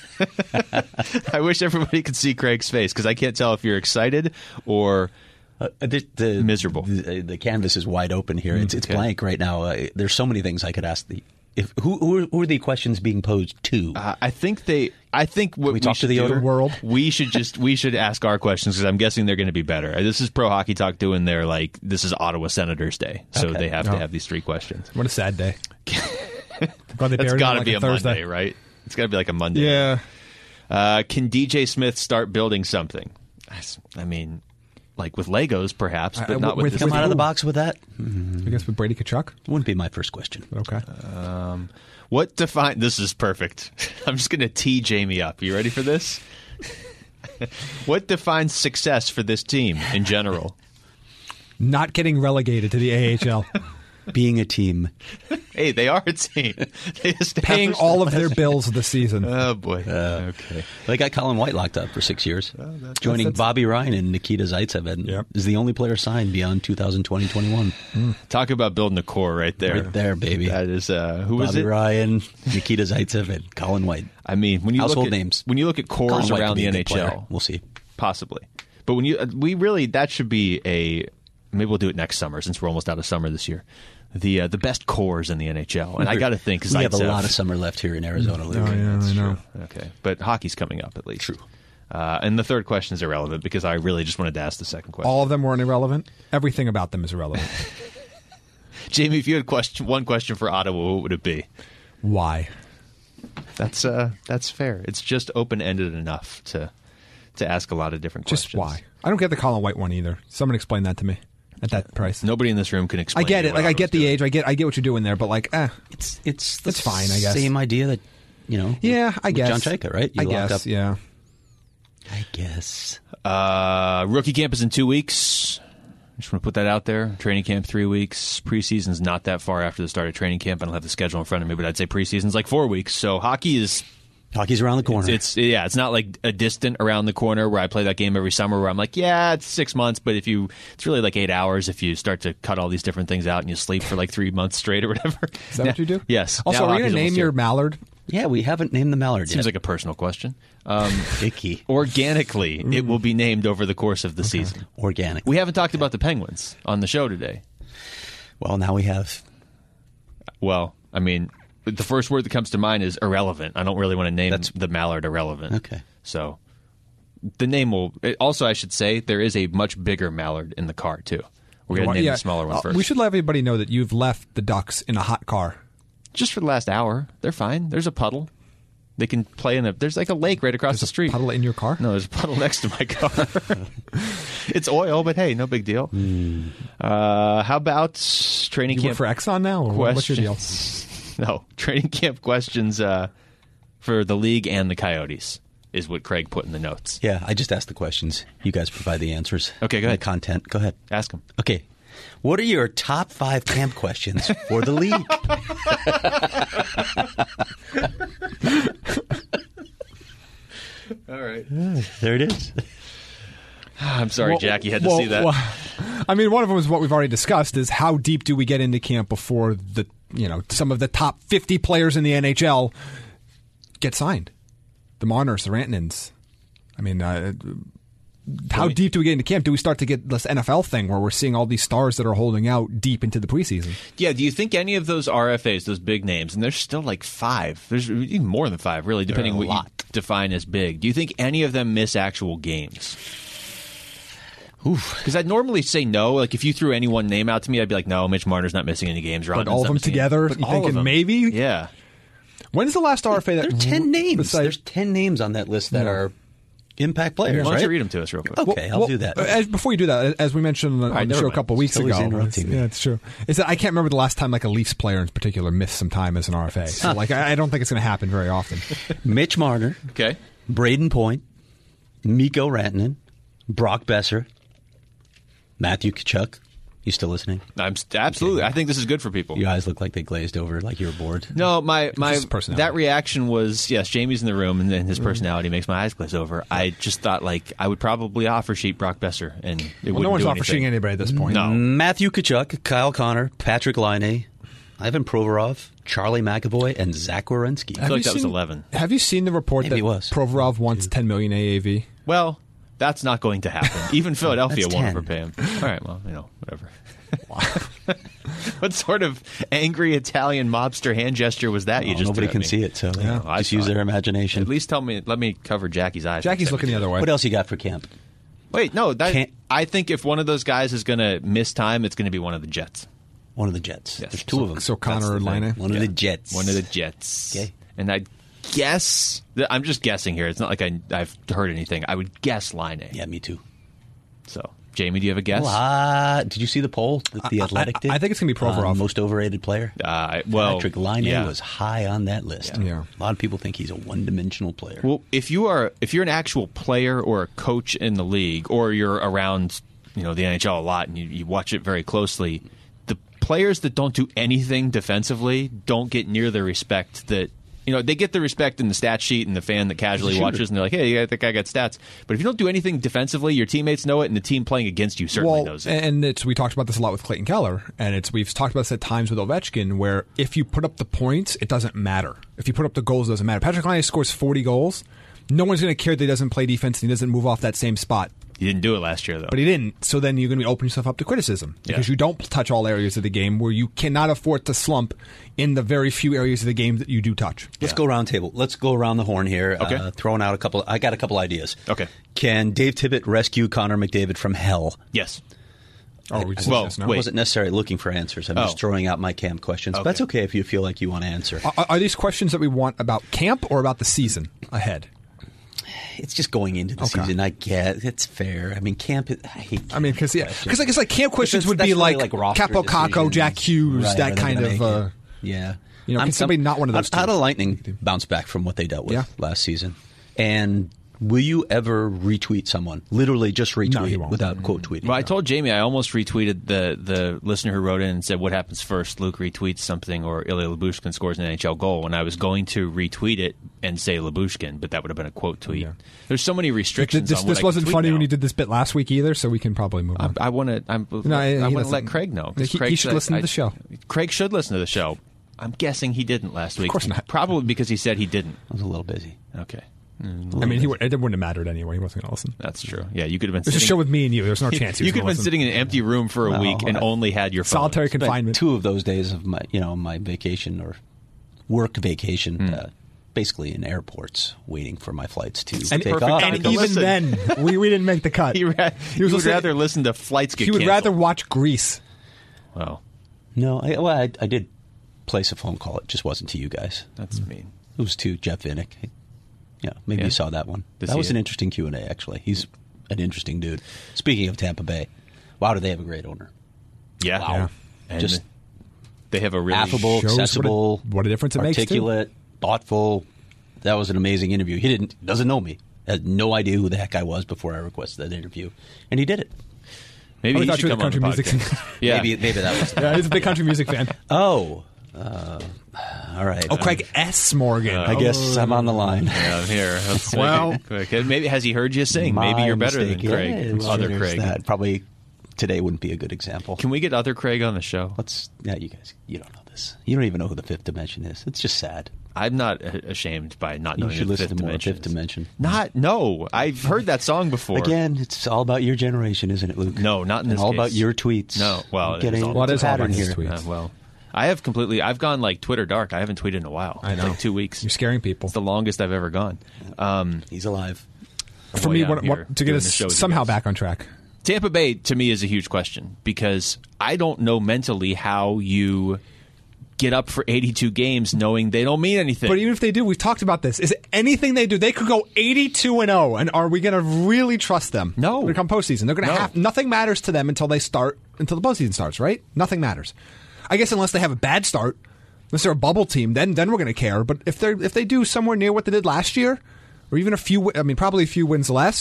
I wish everybody could see Craig's face because I can't tell if you're excited or miserable. The canvas is wide open here. It's blank right now. There's so many things I could ask. Who are the questions being posed to? I think what we talk to the outer world. We should ask our questions because I'm guessing they're going to be better. This is Pro Hockey Talk doing their this is Ottawa Senators Day, so they have to have these 3 questions. What a sad day. It's got to be a Monday, right? It's got to be like a Monday. Yeah. Can DJ Smith start building something? I mean, like with Legos, perhaps, but not with come out of the box with that. I guess with Brady Tkachuk. Wouldn't be my first question. Okay. What define? This is perfect. I'm just going to tee Jamie up. You ready for this? What defines success for this team in general? Not getting relegated to the AHL. Being a team. Hey, they are a team. Paying all of their bills this season. Oh, boy. Okay. They got Colin White locked up for 6 years. Joining Bobby Ryan and Nikita Zaitsev. And is the only player signed beyond 2020-21. Talk about building a core right there. Right there, baby. That is, who was it? Bobby Ryan, Nikita Zaitsev, and Colin White. I mean, when you household look at names. When you look at cores around the NHL. We'll see. Possibly. But when that should be maybe we'll do it next summer since we're almost out of summer this year. The best cores in the NHL, and I got to think we have a lot of summer left here in Arizona. Oh, yeah, I know. Okay, but hockey's coming up at least. True. And the third question is irrelevant because I really just wanted to ask the second question. All of them weren't irrelevant. Everything about them is irrelevant. Jamie, if you had one question for Ottawa, what would it be? Why? That's fair. It's just open ended enough to ask a lot of different questions. Just why? I don't get the Colin White one either. Someone explain that to me. At that price, nobody in this room can explain. I get it. Like I get the age. I get what you're doing there. But like, it's fine. I guess same idea that Yeah, I guess John Chayka, right? I guess. Up. Yeah. I guess. Rookie camp is in 2 weeks. I just want to put that out there. Training camp 3 weeks. Preseason's not that far after the start of training camp. I don't have the schedule in front of me, but I'd say preseason's like 4 weeks. So hockey's around the corner. It's not like a distant around the corner where I play that game every summer where I'm like, yeah, it's 6 months, but it's really like 8 hours if you start to cut all these different things out and you sleep for like 3 months straight or whatever. Is that what you do? Yes. Also, are you going to name your mallard? Yeah, we haven't named the mallard yet. Seems like a personal question. Icky. Organically, it will be named over the course of the season. Organic. We haven't talked about the Penguins on the show today. Well, now we have. Well, I mean, the first word that comes to mind is irrelevant. I don't really want to name the mallard irrelevant. Okay. So the name will... Also, I should say, there is a much bigger mallard in the car, too. We're going to name the smaller one first. We should let everybody know that you've left the Ducks in a hot car. Just for the last hour. They're fine. There's a puddle. They can play in there's like a lake right across the street. Puddle in your car? No, there's a puddle next to my car. It's oil, but hey, no big deal. How about training camp? You work for Exxon now? Or what's your deal? No, training camp questions for the league and the Coyotes is what Craig put in the notes. Yeah, I just asked the questions. You guys provide the answers. Okay, go ahead. The content. Go ahead. Ask them. Okay. What are your top 5 camp questions for the league? All right. There it is. I'm sorry, Jack. You had to see that. I mean, one of them is what we've already discussed: is how deep do we get into camp before some of the top 50 players in the NHL get signed? The Marners, the Rantanens. I mean, how deep do we get into camp? Do we start to get this NFL thing where we're seeing all these stars that are holding out deep into the preseason? Yeah, do you think any of those RFAs, those big names, and there's still like 5, there's even more than 5, really, depending on what you define as big. Do you think any of them miss actual games? Because I'd normally say no. Like, if you threw any one name out to me, I'd be like, no, Mitch Marner's not missing any games. But all of them together, you thinking maybe? Yeah. When's the last RFA that... There are 10 names. There's 10 names on that list that are impact players, Why don't you read them to us real quick? Okay, I'll do that. Before you do that, as we mentioned on the show a couple weeks ago... Yeah, it's true. Is that I can't remember the last time like a Leafs player in particular missed some time as an RFA. So like I don't think it's going to happen very often. Mitch Marner. Okay. Braden Point. Mikko Rantanen. Brock Besser. Matthew Tkachuk, you still listening? I'm absolutely. I think this is good for people. Your eyes look like they glazed over, like you were bored. No, my that reaction was, yes, Jamie's in the room, and then his personality makes my eyes glaze over. I just thought, like, I would probably offer sheet Brock Besser, and it wouldn't no one's do offer sheeting anybody at this point. No. Matthew Tkachuk, Kyle Connor, Patrick Laine, Ivan Provorov, Charlie McAvoy, and Zach Werenski. I feel like that was 11. Have you seen the report Maybe that it was. Provorov wants $10 million AAV? Well, that's not going to happen. Even Philadelphia That's won't 10. overpay him. All right, well, whatever. What sort of angry Italian mobster hand gesture was that? Nobody can see it, so just use their imagination. At least let me cover Jackie's eyes. Jackie's looking the other way. What else you got for camp? Wait, no, I think if one of those guys is going to miss time, it's going to be one of the Jets. One of the Jets. Yes. There's two of them. So Connor or Laine? One of the Jets. One of the Jets. Okay. And I guess, I'm just guessing here. It's not like I've heard anything. I would guess Laine. Yeah, me too. So, Jamie, do you have a guess? Did you see the poll that The Athletic did? I think it's going to be Provorov. Most overrated player? Patrick Laine was high on that list. Yeah. A lot of people think he's a one-dimensional player. Well, if you're an actual player or a coach in the league, or you're around the NHL a lot and you watch it very closely, the players that don't do anything defensively don't get near the respect that they get the respect in the stat sheet and the fan that casually watches, and they're like, hey, I think I got stats. But if you don't do anything defensively, your teammates know it, and the team playing against you certainly knows it. And we talked about this a lot with Clayton Keller, and we've talked about this at times with Ovechkin, where if you put up the points, it doesn't matter. If you put up the goals, it doesn't matter. Patrick Laine scores 40 goals. No one's going to care that he doesn't play defense and he doesn't move off that same spot. He didn't do it last year, though. But he didn't. So then you're going to open yourself up to criticism because you don't touch all areas of the game, where you cannot afford to slump in the very few areas of the game that you do touch. Let's go round table. Let's go around the horn here. Okay. Throwing out I got a couple ideas. Okay. Can Dave Tippett rescue Connor McDavid from hell? Yes. Oh, we just yes, no? I wasn't necessarily looking for answers. I'm just throwing out my camp questions. But that's okay if you feel like you want to answer. Are these questions that we want about camp or about the season ahead? It's just going into the season. I get it's fair. I mean, camp. I hate camp because I guess like camp questions would be really like roster Capo Caco, Jack Hughes, right, that kind of. Yeah. Can somebody not one of those? How did Lightning bounce back from what they dealt with last season? And will you ever retweet someone? Literally just retweet without quote tweeting. Well, I told Jamie I almost retweeted the listener who wrote in and said, what happens first? Luke retweets something or Ilya Lyubushkin scores an NHL goal. And I was going to retweet it and say Lyubushkin, but that would have been a quote tweet. Yeah. There's so many restrictions on what this wasn't funny now. when you did this bit last week either, so we can probably move on. I want to let Craig know. He should listen to the show. Craig should listen to the show. I'm guessing he didn't last week. Of course not. Probably because he said he didn't. I was a little busy. Okay. I mean, it wouldn't have mattered anyway. He wasn't going to listen. That's true. Yeah, you could have been. There's a show with me and you. There's no chance. You could have been sitting in an empty room for a week and only had your phone. Solitary confinement. 2 of those days of my vacation or work vacation, basically in airports, waiting for my flights to take off. And even then, we didn't make the cut. He would rather listen to flights get canceled. He would rather watch Grease. Wow. No, I did place a phone call. It just wasn't to you guys. That's mean. It was to Jeff Vinnick. Yeah, maybe you saw that one. That was an interesting Q&A, actually. He's an interesting dude. Speaking of Tampa Bay, wow, do they have a great owner. Yeah. Wow. Yeah. And just they have a really affable, accessible, what a difference it makes, articulate, thoughtful. That was an amazing interview. He doesn't know me. Had no idea who the heck I was before I requested that interview. And he did it. Maybe he should come on the podcast. Yeah. Maybe that was yeah, he's a big country music fan. Oh. All right. Oh, Craig S. Morgan. I guess I'm on the line. Yeah, I'm here. Well, maybe has he heard you sing? Maybe you're better than Craig. Yeah, other Craig. That. Probably today wouldn't be a good example. Can we get other Craig on the show? You guys, you don't know this. You don't even know who the Fifth Dimension is. It's just sad. I'm not ashamed by not knowing the Fifth Dimension. Fifth Dimension. No. I've heard that song before. Again, it's all about your generation, isn't it, Luke? No, not in this case. All about your tweets. No, well, it is all about his tweets. Well, I've gone like Twitter dark. I haven't tweeted in a while. I know. Like 2 weeks. You're scaring people. It's the longest I've ever gone. He's alive. For me, to get us somehow back on track. Tampa Bay, to me, is a huge question because I don't know mentally how you get up for 82 games knowing they don't mean anything. But even if they do, we've talked about this. Is it anything they do? They could go 82-0, and are we going to really trust them? No. When it comes postseason, they're going to have nothing matters to them until the postseason starts, right? Nothing matters. I guess unless they have a bad start, unless they're a bubble team, then we're going to care. But if they do somewhere near what they did last year, or even probably a few wins less,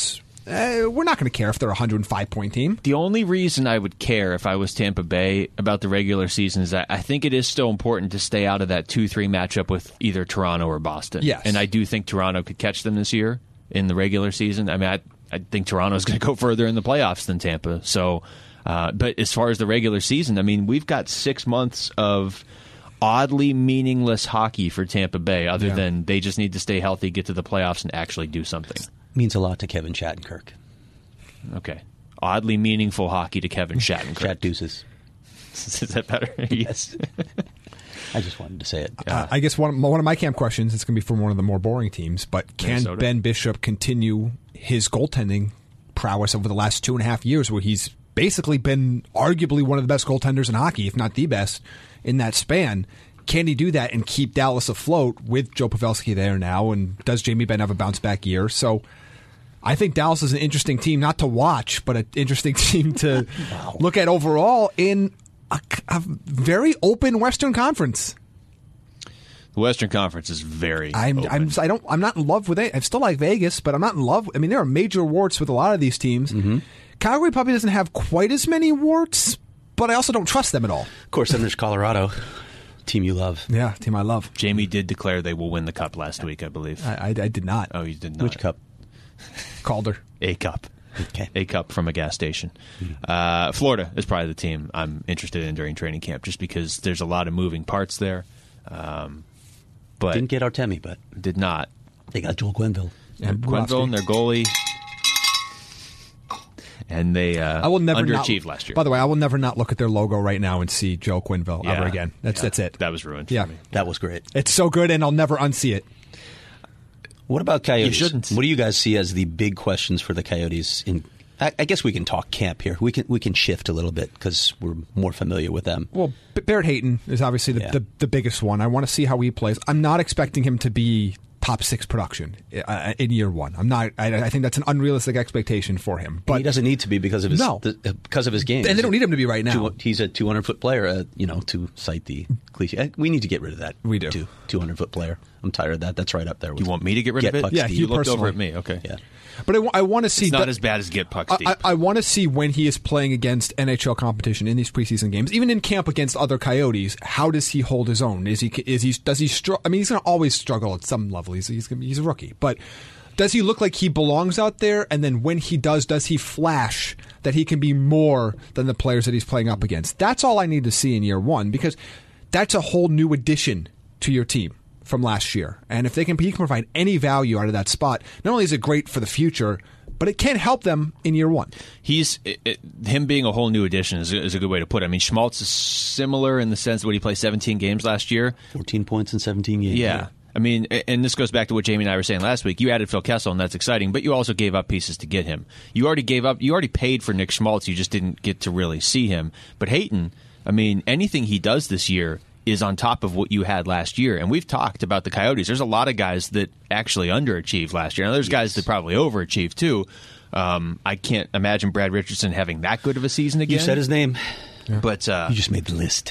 we're not going to care if they're a 105-point team. The only reason I would care if I was Tampa Bay about the regular season is that I think it is still important to stay out of that 2-3 matchup with either Toronto or Boston. Yes. And I do think Toronto could catch them this year in the regular season. I mean, I think Toronto's going to go further in the playoffs than Tampa. So, but as far as the regular season, I mean, we've got 6 months of oddly meaningless hockey for Tampa Bay, other than they just need to stay healthy, get to the playoffs, and actually do something. Means a lot to Kevin Shattenkirk. Okay. Oddly meaningful hockey to Kevin Shattenkirk. Shat deuces. Is that better? Yes. I just wanted to say it. I guess one of my camp questions, it's going to be from one of the more boring teams, but can Minnesota. Ben Bishop continue his goaltending prowess over the last 2.5 years, where he's basically been arguably one of the best goaltenders in hockey, if not the best, in that span? Can he do that and keep Dallas afloat with Joe Pavelski there now? And does Jamie Benn have a bounce-back year? So I think Dallas is an interesting team, not to watch, but an interesting team to look at overall in a very open Western Conference. The Western Conference is very I'm not in love with it. I still like Vegas, but I'm not in love. I mean, there are major warts with a lot of these teams. Mm-hmm. Calgary probably doesn't have quite as many warts, but I also don't trust them at all. Of course, then there's Colorado, team you love. Yeah, team I love. Jamie did declare they will win the cup last week, I believe. I did not. Oh, you did not. Which cup? Calder. A cup. Okay. A cup from a gas station. Florida is probably the team I'm interested in during training camp, just because there's a lot of moving parts there. But didn't get Artemi, but did not. They got Joel Quenneville. And Quenneville and their goalie. And they I will never underachieved last year. By the way, I will never not look at their logo right now and see Joe Quenneville ever again. That's it. That was ruined for me. That was great. It's so good, and I'll never unsee it. What about Coyotes? You shouldn't. What do you guys see as the big questions for the Coyotes? I guess we can talk camp here. We can shift a little bit because we're more familiar with them. Well, Barrett Hayton is obviously the biggest one. I want to see how he plays. I'm not expecting him to be top 6 production in year one. I'm not. I think that's an unrealistic expectation for him. But he doesn't need to be because of his game. And they don't need him to be right now. He's a 200-foot player. To cite the cliche, we need to get rid of that. We do. 200-foot player. I'm tired of that. That's right up there. You want me to get rid of it? Yeah, you looked over at me. Okay. Yeah. But I want to see. It's not as bad as Get Pucks Deep. I want to see when he is playing against NHL competition in these preseason games, even in camp against other Coyotes. How does he hold his own? Does he struggle? I mean, he's going to always struggle at some level. He's a rookie, but does he look like he belongs out there? And then when he does he flash that he can be more than the players that he's playing up against? That's all I need to see in year one, because that's a whole new addition to your team from last year. And if he can provide any value out of that spot, not only is it great for the future, but it can help them in year one. Him being a whole new addition is a good way to put it. I mean, Schmaltz is similar in the sense that he played 17 games last year. 14 points in 17 games. Yeah. I mean, and this goes back to what Jamie and I were saying last week. You added Phil Kessel, and that's exciting, but you also gave up pieces to get him. You already paid for Nick Schmaltz. You just didn't get to really see him. But Hayton, I mean, anything he does this year is on top of what you had last year. And we've talked about the Coyotes. There's a lot of guys that actually underachieved last year. Now, there's guys that probably overachieved, too. I can't imagine Brad Richardson having that good of a season again. You said his name. Yeah. But you just made the list.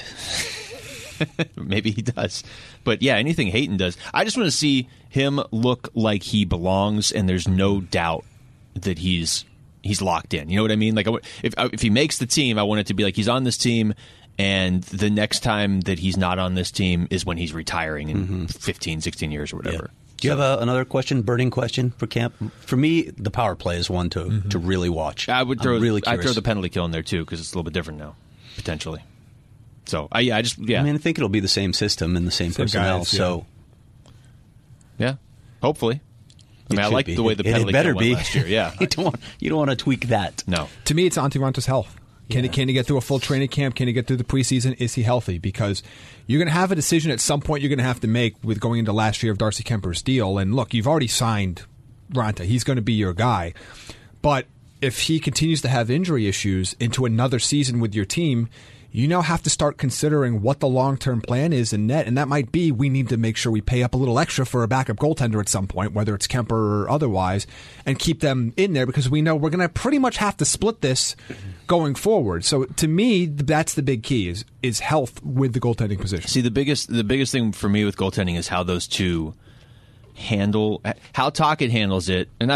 Maybe he does. But yeah, anything Hayton does. I just want to see him look like he belongs, and there's no doubt that he's locked in. You know what I mean? Like, if he makes the team, I want it to be like he's on this team, and the next time that he's not on this team is when he's retiring in 15, 16 years or whatever. Yeah. Do you have another burning question for camp? For me, the power play is one to really watch. I'd throw the penalty kill in there, too, because it's a little bit different now, potentially. So, I mean, I think it'll be the same system and the same personnel. Guys, so, yeah, hopefully. I mean, I like the way the penalty kill went last year. Yeah, you don't want to tweak that. No. To me, it's Antti Ranta's health. Can he get through a full training camp? Can he get through the preseason? Is he healthy? Because you're going to have a decision at some point you're going to have to make with going into last year of Darcy Kemper's deal. And look, you've already signed Ranta. He's going to be your guy. But if he continues to have injury issues into another season with your team, you now have to start considering what the long-term plan is in net, and that might be we need to make sure we pay up a little extra for a backup goaltender at some point, whether it's Kemper or otherwise, and keep them in there because we know we're going to pretty much have to split this going forward. So to me, that's the big key is health with the goaltending position. See, the biggest thing for me with goaltending is how those two how Tocchet handles it, and I've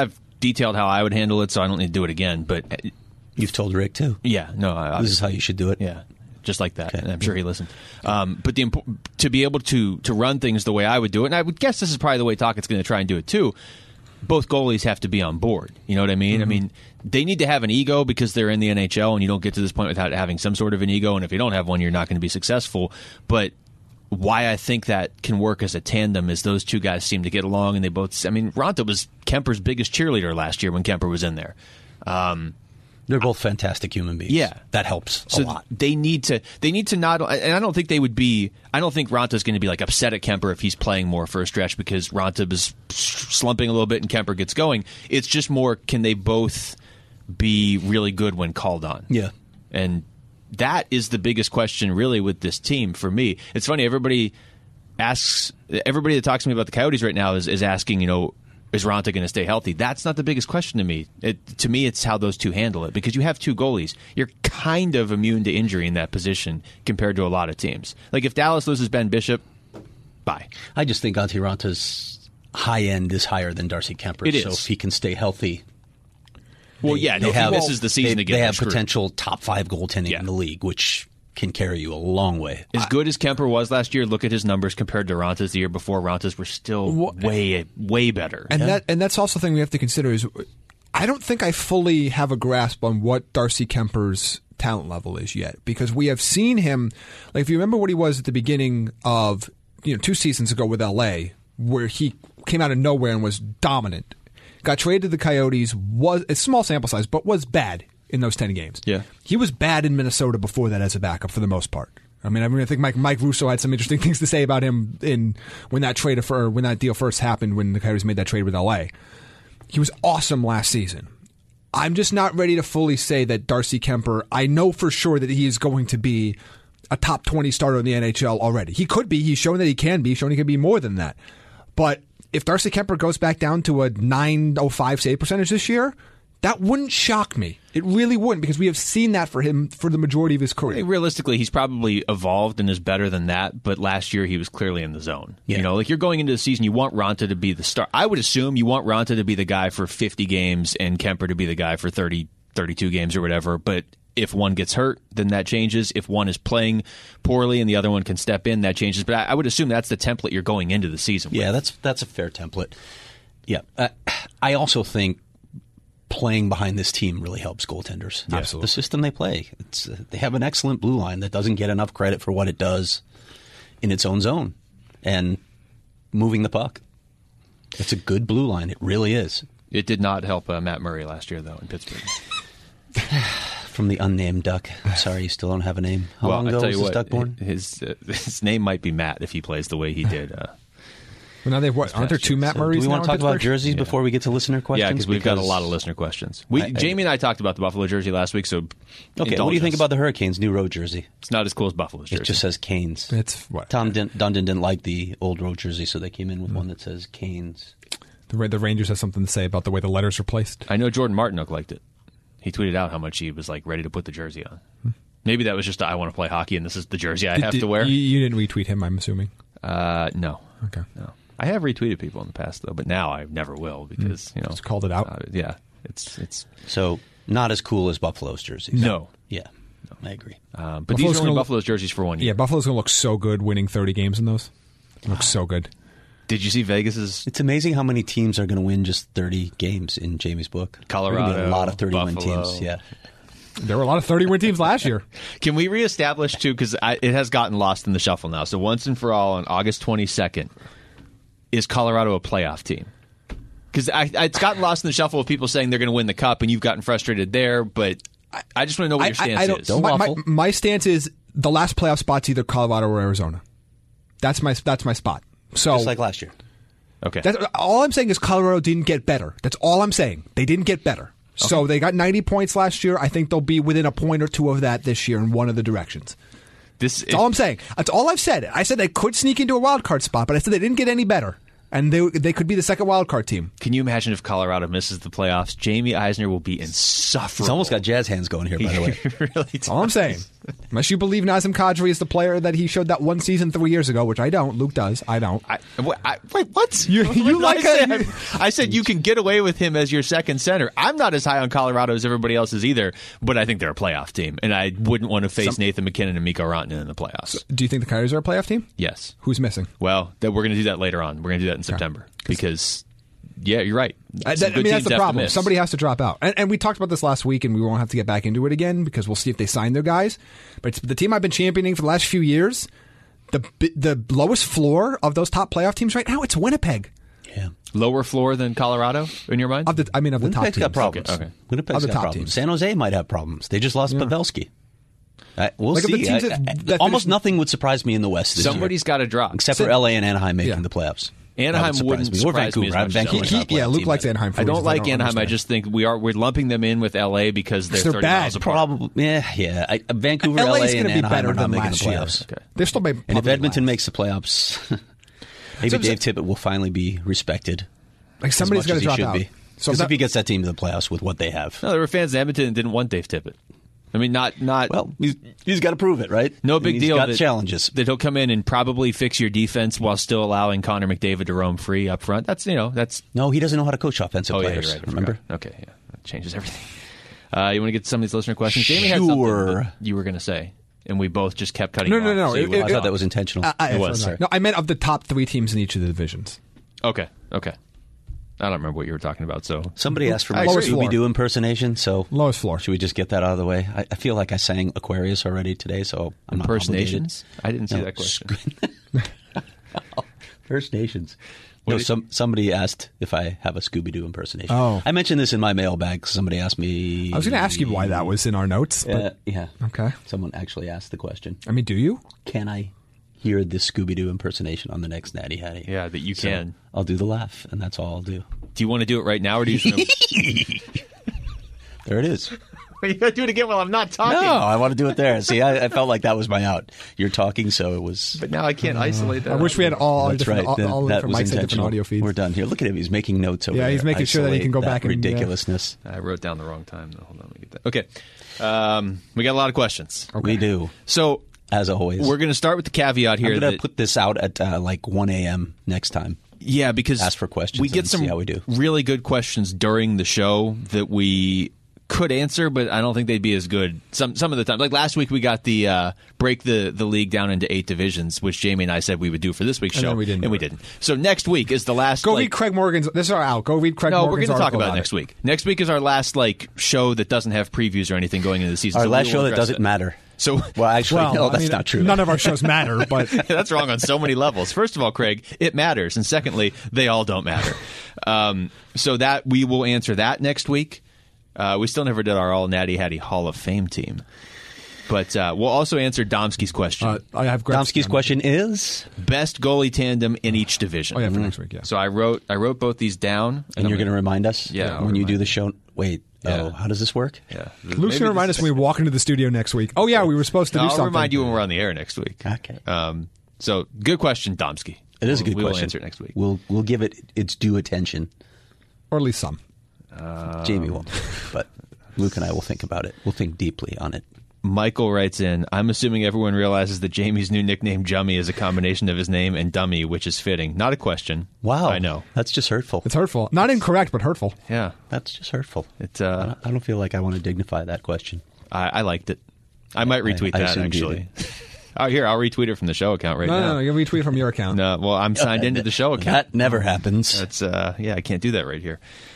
detailed how I would handle it, so I don't need to do it again. But you've told Rick too. Yeah, no, this is how you should do it. Yeah, just like that. Okay. And I'm sure he listened. But to be able to run things the way I would do it, and I would guess this is probably the way Tockett's going to try and do it too. Both goalies have to be on board. You know what I mean? Mm-hmm. I mean, they need to have an ego because they're in the NHL, and you don't get to this point without having some sort of an ego. And if you don't have one, you're not going to be successful. But why I think that can work as a tandem is those two guys seem to get along, and they both. I mean, Raanta was Kemper's biggest cheerleader last year when Kemper was in there. They're both fantastic human beings. Yeah, that helps a lot. They need to not, and I don't think they would be. I don't think Ranta's going to be like upset at Kemper if he's playing more for a stretch because Raanta is slumping a little bit and Kemper gets going. It's just more, can they both be really good when called on? Yeah, and that is the biggest question really with this team for me. It's funny, everybody that talks to me about the Coyotes right now is asking, is Raanta going to stay healthy? That's not the biggest question to me. To me, it's how those two handle it, because you have two goalies. You're kind of immune to injury in that position compared to a lot of teams. Like if Dallas loses Ben Bishop, bye. I just think Antti Ranta's high end is higher than Darcy Kemper. It is. So if he can stay healthy. Well, this is the season to get They have potential top 5 goaltending in the league, which can carry you a long way. As good as Kemper was last year, look at his numbers compared to Ranta's the year before. Ranta's were still way better. And that's also the thing we have to consider is I don't think I fully have a grasp on what Darcy Kemper's talent level is yet, because we have seen him, like if you remember what he was at the beginning of 2 seasons ago with LA, where he came out of nowhere and was dominant. Got traded to the Coyotes, was a small sample size, but was bad in those 10 games. Yeah. He was bad in Minnesota before that as a backup for the most part. I think Mike Russo had some interesting things to say about him when that deal first happened, when the Coyotes made that trade with LA. He was awesome last season. I'm just not ready to fully say that Darcy Kemper, I know for sure that he is going to be a top 20 starter in the NHL already. He could be. He's shown that he can be. Shown he can be more than that. But if Darcy Kemper goes back down to a .905 save percentage this year, that wouldn't shock me. It really wouldn't, because we have seen that for him for the majority of his career. Realistically, he's probably evolved and is better than that, but last year he was clearly in the zone. Yeah. Like you're going into the season, you want Raanta to be the star. I would assume you want Raanta to be the guy for 50 games and Kemper to be the guy for 30, 32 games or whatever, but if one gets hurt, then that changes. If one is playing poorly and the other one can step in, that changes. But I would assume that's the template you're going into the season with. Yeah, that's a fair template. Yeah. I also think playing behind this team really helps goaltenders. Yeah, absolutely. The system they play. They have an excellent blue line that doesn't get enough credit for what it does in its own zone and moving the puck. It's a good blue line. It really is. It did not help Matt Murray last year, though, in Pittsburgh. From the unnamed duck. I'm sorry, you still don't have a name. How long ago was this duck born? His name might be Matt if he plays the way he did. Well, now aren't there 2 Matt Murrays? Do we want to talk about jerseys before we get to listener questions? Yeah, because we've got a lot of listener questions. Jamie and I talked about the Buffalo jersey last week. So, okay, what do you think about the Hurricanes' new road jersey? It's not as cool as Buffalo's jersey. It just says Canes. It's what? Tom Dundon didn't like the old road jersey, so they came in with one that says Canes. The Rangers have something to say about the way the letters are placed. I know Jordan Martinook liked it. He tweeted out how much he was ready to put the jersey on. Maybe that was just I want to play hockey and this is the jersey I have to wear. You didn't retweet him, I'm assuming. No. Okay. No. I have retweeted people in the past though, but now I never will because just called it out. Yeah, it's so not as cool as Buffalo's jerseys. No. Yeah. No, I agree. But these are only Buffalo's jerseys for 1 year. Yeah, Buffalo's going to look so good winning 30 games in those. It looks so good. Did you see Vegas's? It's amazing how many teams are going to win just 30 games in Jamie's book. Colorado, a lot of 30-win Buffalo. teams. Yeah, there were a lot of 30-win teams last year. Can we reestablish too? Because it has gotten lost in the shuffle now. So once and for all, on August 22nd, is Colorado a playoff team? Because it's gotten lost in the shuffle of people saying they're going to win the cup, and you've gotten frustrated there. But I just want to know what your stance is. My stance is the last playoff spot's either Colorado or Arizona. That's my spot. So, just like last year. Okay. All I'm saying is Colorado didn't get better. That's all I'm saying. They didn't get better. Okay. So they got 90 points last year. I think they'll be within a point or two of that this year in one of the directions. That's all I'm saying. That's all I've said. I said they could sneak into a wild card spot, but I said they didn't get any better. And they could be the second wild card team. Can you imagine if Colorado misses the playoffs? Jamie Eisner will be insufferable. He's almost got jazz hands going here, by the way. Really That's all I'm saying. Unless you believe Nazem Kadri is the player that he showed that one season 3 years ago, which I don't. Luke does. I don't. Wait, what? I said you can get away with him as your second center. I'm not as high on Colorado as everybody else is either, but I think they're a playoff team, and I wouldn't want to face Nathan McKinnon and Mikko Rantanen in the playoffs. Do you think the Coyotes are a playoff team? Yes. Who's missing? Well, we're going to do that later on. We're going to do that in September because... Yeah, you're right. That's the problem. Somebody has to drop out. And we talked about this last week, and we won't have to get back into it again because we'll see if they sign their guys. But it's the team I've been championing for the last few years. The lowest floor of those top playoff teams right now, it's Winnipeg. Yeah. Lower floor than Colorado in your mind? Of the top teams. Got problems. Okay. Winnipeg's got problems. Teams. San Jose might have problems. They just lost Pavelski. We'll see. Almost nothing would surprise me in the West this year. Somebody's got to drop. Except for LA and Anaheim making the playoffs. Anaheim wouldn't surprise me as much. Luke likes Anaheim. I don't like Anaheim. I just think we're lumping them in with LA because they're 30 bad. miles apart. Probably, yeah. Vancouver, LA, and Anaheim are not making the playoffs. Okay. They're still and if Edmonton makes the playoffs, maybe Dave Tippett will finally be respected. Like somebody's got to drop out. Because if he gets that team to the playoffs with what they have, no, there were fans in Edmonton that didn't want Dave Tippett. I mean, not. Well, he's got to prove it, right? No big deal. He's got challenges that he'll come in and probably fix your defense while still allowing Connor McDavid to roam free up front. That's. No, he doesn't know how to coach offensive players. Yeah, you're right. Remember? Okay, yeah, that changes everything. You want to get some of these listener questions? Jamie had something that you were going to say, and we both just kept cutting. No. I thought that was intentional. It was. No, I meant of the top 3 teams in each of the divisions. Okay. I don't remember what you were talking about. So somebody asked for my Scooby-Doo impersonation. So lowest floor. Should we just get that out of the way? I feel like I sang Aquarius already today, so I'm impersonations. Not I didn't see that question. First Nations. No, somebody asked if I have a Scooby-Doo impersonation. Oh. I mentioned this in my mailbag. Somebody asked me. I was going to ask you why that was in our notes. But... yeah. Okay. Someone actually asked the question. I mean, do you? Can I hear this Scooby-Doo impersonation on the next Natty Hattie? Yeah, that you can. I'll do the laugh, and that's all I'll do. Do you want to do it right now, or do you just There it is. You got to do it again while I'm not talking. No, I want to do it there. See, I felt like that was my out. You're talking, so it was. But now I can't isolate that. I wish we had all different, right. all different mics and different audio feeds. We're done here. Look at him. He's making notes over there. Yeah, he's making sure that he can go back and ridiculousness. I wrote down the wrong time. Hold on, let me get that. Okay. We got a lot of questions. Okay. We do. So, as always, we're going to start with the caveat here. I'm going to put this out at like 1 a.m. next time. Yeah, because ask for questions. We get some really good questions during the show that we could answer, but I don't think they'd be as good some of the time. Like last week, we got the break the league down into 8 divisions, which Jamie and I said we would do for this week's show, and we didn't. So next week is the last. Go read Craig Morgan's. This is our out. Go read Craig Morgan's. No, we're going to talk about it next week. Next week is our last show that doesn't have previews or anything going into the season. Our last show that doesn't matter. So, that's not true. None of our shows matter, but that's wrong on so many levels. First of all, Craig, it matters, and secondly, they all don't matter. So that we will answer that next week. We still never did our All Natty Hattie Hall of Fame team, but we'll also answer Domsky's question. I have Domsky's question is best goalie tandem in each division. Oh yeah, for next week. Yeah. So I wrote both these down, and you're going to remind us. Yeah, when you do the show. Wait. Yeah. Oh, how does this work? Yeah, Luke's going to remind us when we walk into the studio next week. Oh, yeah, we were supposed to do something. I'll remind you when we're on the air next week. Okay. So, good question, Domsky. It is a good question. We'll answer it next week. We'll give it its due attention. Or at least some. Jamie won't. But Luke and I will think about it. We'll think deeply on it. Michael writes in, I'm assuming everyone realizes that Jamie's new nickname, Jummy, is a combination of his name and dummy, which is fitting. Not a question. Wow. I know. That's just hurtful. It's hurtful. Not incorrect, but hurtful. Yeah. That's just hurtful. I don't feel like I want to dignify that question. I liked it. I might retweet that, actually. Here, I'll retweet it from the show account now. No, you'll retweet it from your account. No, well, I'm signed into the show account. That never happens. That's I can't do that right here.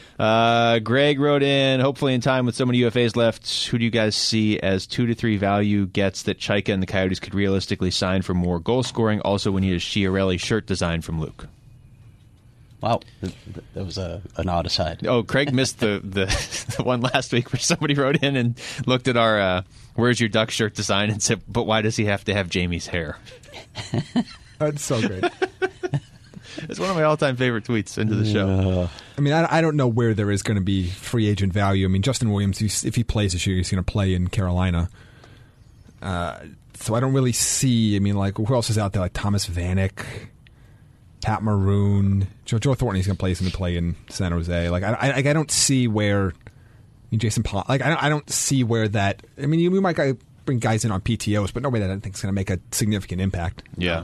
Greg wrote in, hopefully in time with so many UFAs left, who do you guys see as 2 to 3 value gets that Chaika and the Coyotes could realistically sign for more goal scoring? Also, we need a Chiarelli shirt design from Luke. Wow, that was an odd aside. Oh, Craig missed the one last week where somebody wrote in and looked at our Where's Your Duck shirt design and said, but why does he have to have Jamie's hair? That's so great. It's one of my all-time favorite tweets into the show. I mean, I don't know where there is going to be free agent value. I mean, Justin Williams, if he plays this year, he's going to play in Carolina. So I don't really see, I mean, like, who else is out there? Like Thomas Vanek, Pat Maroon, Joe Thornton, he's going to play in San Jose. Like, I don't see where, I mean, Jason Paul, like, I don't see where that, I mean, we might bring guys in on PTOs, but nobody that I think is going to make a significant impact. Yeah.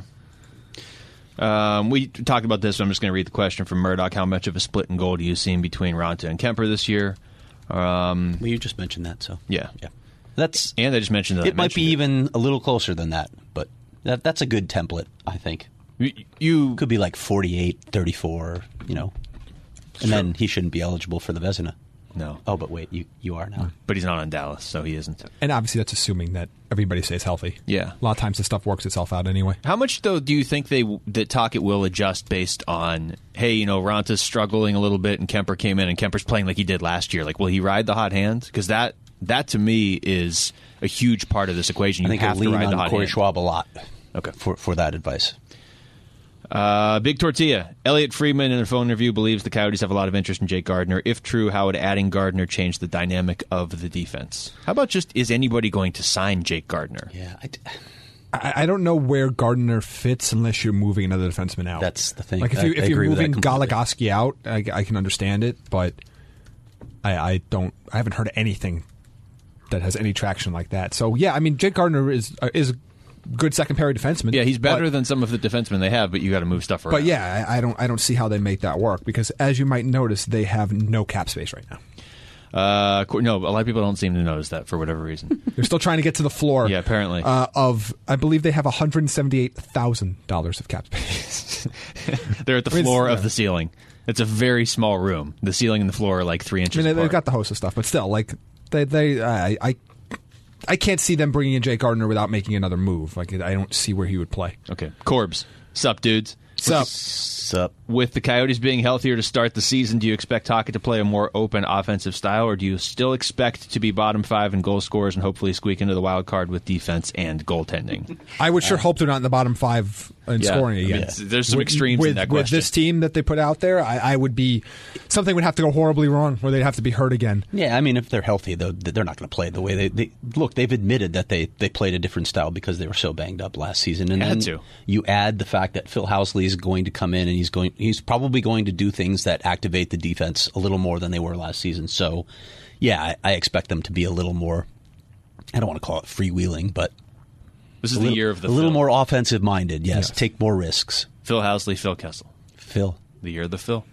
We talked about this, so I'm just going to read the question from Murdoch. How much of a split in goal do you see between Raanta and Kemper this year? Well, you just mentioned that, so yeah. That's and I just mentioned that it might be even a little closer than that, but that's a good template, I think. You could be like 48-34, and then he shouldn't be eligible for the Vezina. No. Oh, but wait, you are now. But he's not on Dallas, so he isn't. And obviously that's assuming that everybody stays healthy. Yeah. A lot of times this stuff works itself out anyway. How much, though, do you think that Tocchet will adjust based on, hey, Raanta's struggling a little bit and Kemper came in and Kemper's playing like he did last year? Like, will he ride the hot hand? Because that to me is a huge part of this equation. You have to ride the hot hand. Corey Schwab a lot. Okay. For that advice. Big Tortilla. Elliot Friedman in a phone interview believes the Coyotes have a lot of interest in Jake Gardiner. If true, how would adding Gardiner change the dynamic of the defense? How about just, is anybody going to sign Jake Gardiner? Yeah, I don't know where Gardiner fits unless you're moving another defenseman out. That's the thing. Like if you're moving Goligoski out, I can understand it, but I haven't heard anything that has any traction like that. So yeah, I mean, Jake Gardiner is a good second pair defenseman. Yeah, he's better than some of the defensemen they have, but you got to move stuff around. But yeah, I don't see how they make that work because, as you might notice, they have no cap space right now. No, a lot of people don't seem to notice that for whatever reason. They're still trying to get to the floor. Yeah, apparently. I believe they have $178,000 of cap space. They're at the floor of the ceiling. It's a very small room. The ceiling and the floor are like 3 inches apart. They've got the host of stuff, but still, like I can't see them bringing in Jake Gardiner without making another move. Like I don't see where he would play. Okay, Corbs, sup, dudes? Sup. With the Coyotes being healthier to start the season, do you expect Tocchet to play a more open offensive style, or do you still expect to be bottom 5 in goal scorers and hopefully squeak into the wild card with defense and goaltending? I would sure hope they're not in the bottom 5 in scoring again. I mean, there's some extremes in that question. With this team that they put out there, I would be something would have to go horribly wrong, where they'd have to be hurt again. Yeah, I mean, if they're healthy, though, they're not going to play the way they look. They've admitted that they played a different style because they were so banged up last season, and then you add the fact that Phil Housley is going to come in and he's probably going to do things that activate the defense a little more than they were last season. So, yeah, I expect them to be a little more. I don't want to call it freewheeling, but this is the year of the a little more offensive minded. Yes, take more risks. Phil Housley, Phil Kessel. Phil, the year of the Phil.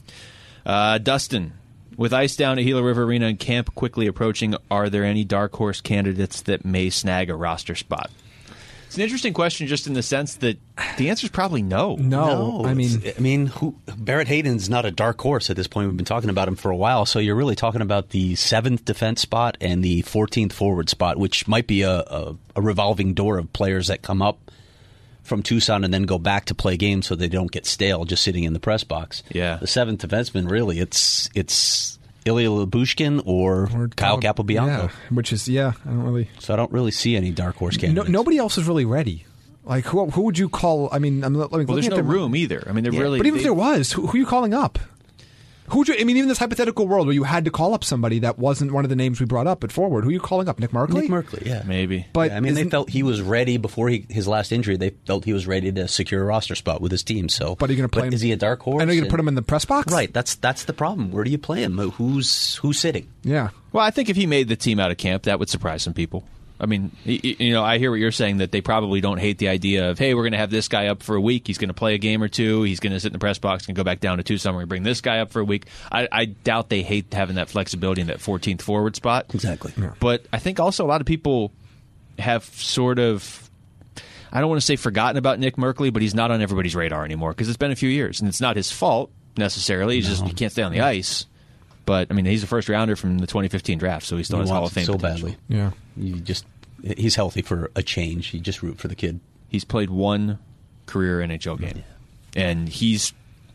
Dustin, with ice down at Gila River Arena and camp quickly approaching, are there any dark horse candidates that may snag a roster spot? It's an interesting question, just in the sense that the answer is probably no. No. I mean, Barrett Hayden's not a dark horse at this point. We've been talking about him for a while, so you're really talking about the 7th defense spot and the 14th forward spot, which might be a revolving door of players that come up from Tucson and then go back to play games so they don't get stale just sitting in the press box. Yeah, the 7th defenseman, really, it's Ilya Lyubushkin or Kyle Capobianco. Yeah, which is, I don't really see any dark horse candidates. Nobody else is really ready. Like, who would you call? I mean, there's no room either. I mean, really. But even if there was, who are you calling up? Who would you? I mean, even this hypothetical world where you had to call up somebody that wasn't one of the names we brought up at forward, who are you calling up? Nick Merkley? Nick Merkley, yeah, maybe. But I mean, they felt he was ready before his last injury. They felt he was ready to secure a roster spot with his team. So, but are you going to play him? Is he a dark horse? I know you're going to put him in the press box, right? That's the problem. Where do you play him? Who's sitting? Yeah. Well, I think if he made the team out of camp, that would surprise some people. I mean, I hear what you're saying, that they probably don't hate the idea of, hey, we're going to have this guy up for a week. He's going to play a game or two. He's going to sit in the press box and go back down to Tucson. We're going to bring this guy up for a week. I doubt they hate having that flexibility in that 14th forward spot. Exactly. Yeah. But I think also a lot of people have sort of, I don't want to say forgotten about Nick Merkley, but he's not on everybody's radar anymore because it's been a few years. And it's not his fault necessarily. He's just he can't stay on the ice. But, I mean, he's a first-rounder from the 2015 draft, so he still has Hall of Fame potential. So badly. Yeah. He's healthy for a change. You just root for the kid. He's played one career NHL game, and he's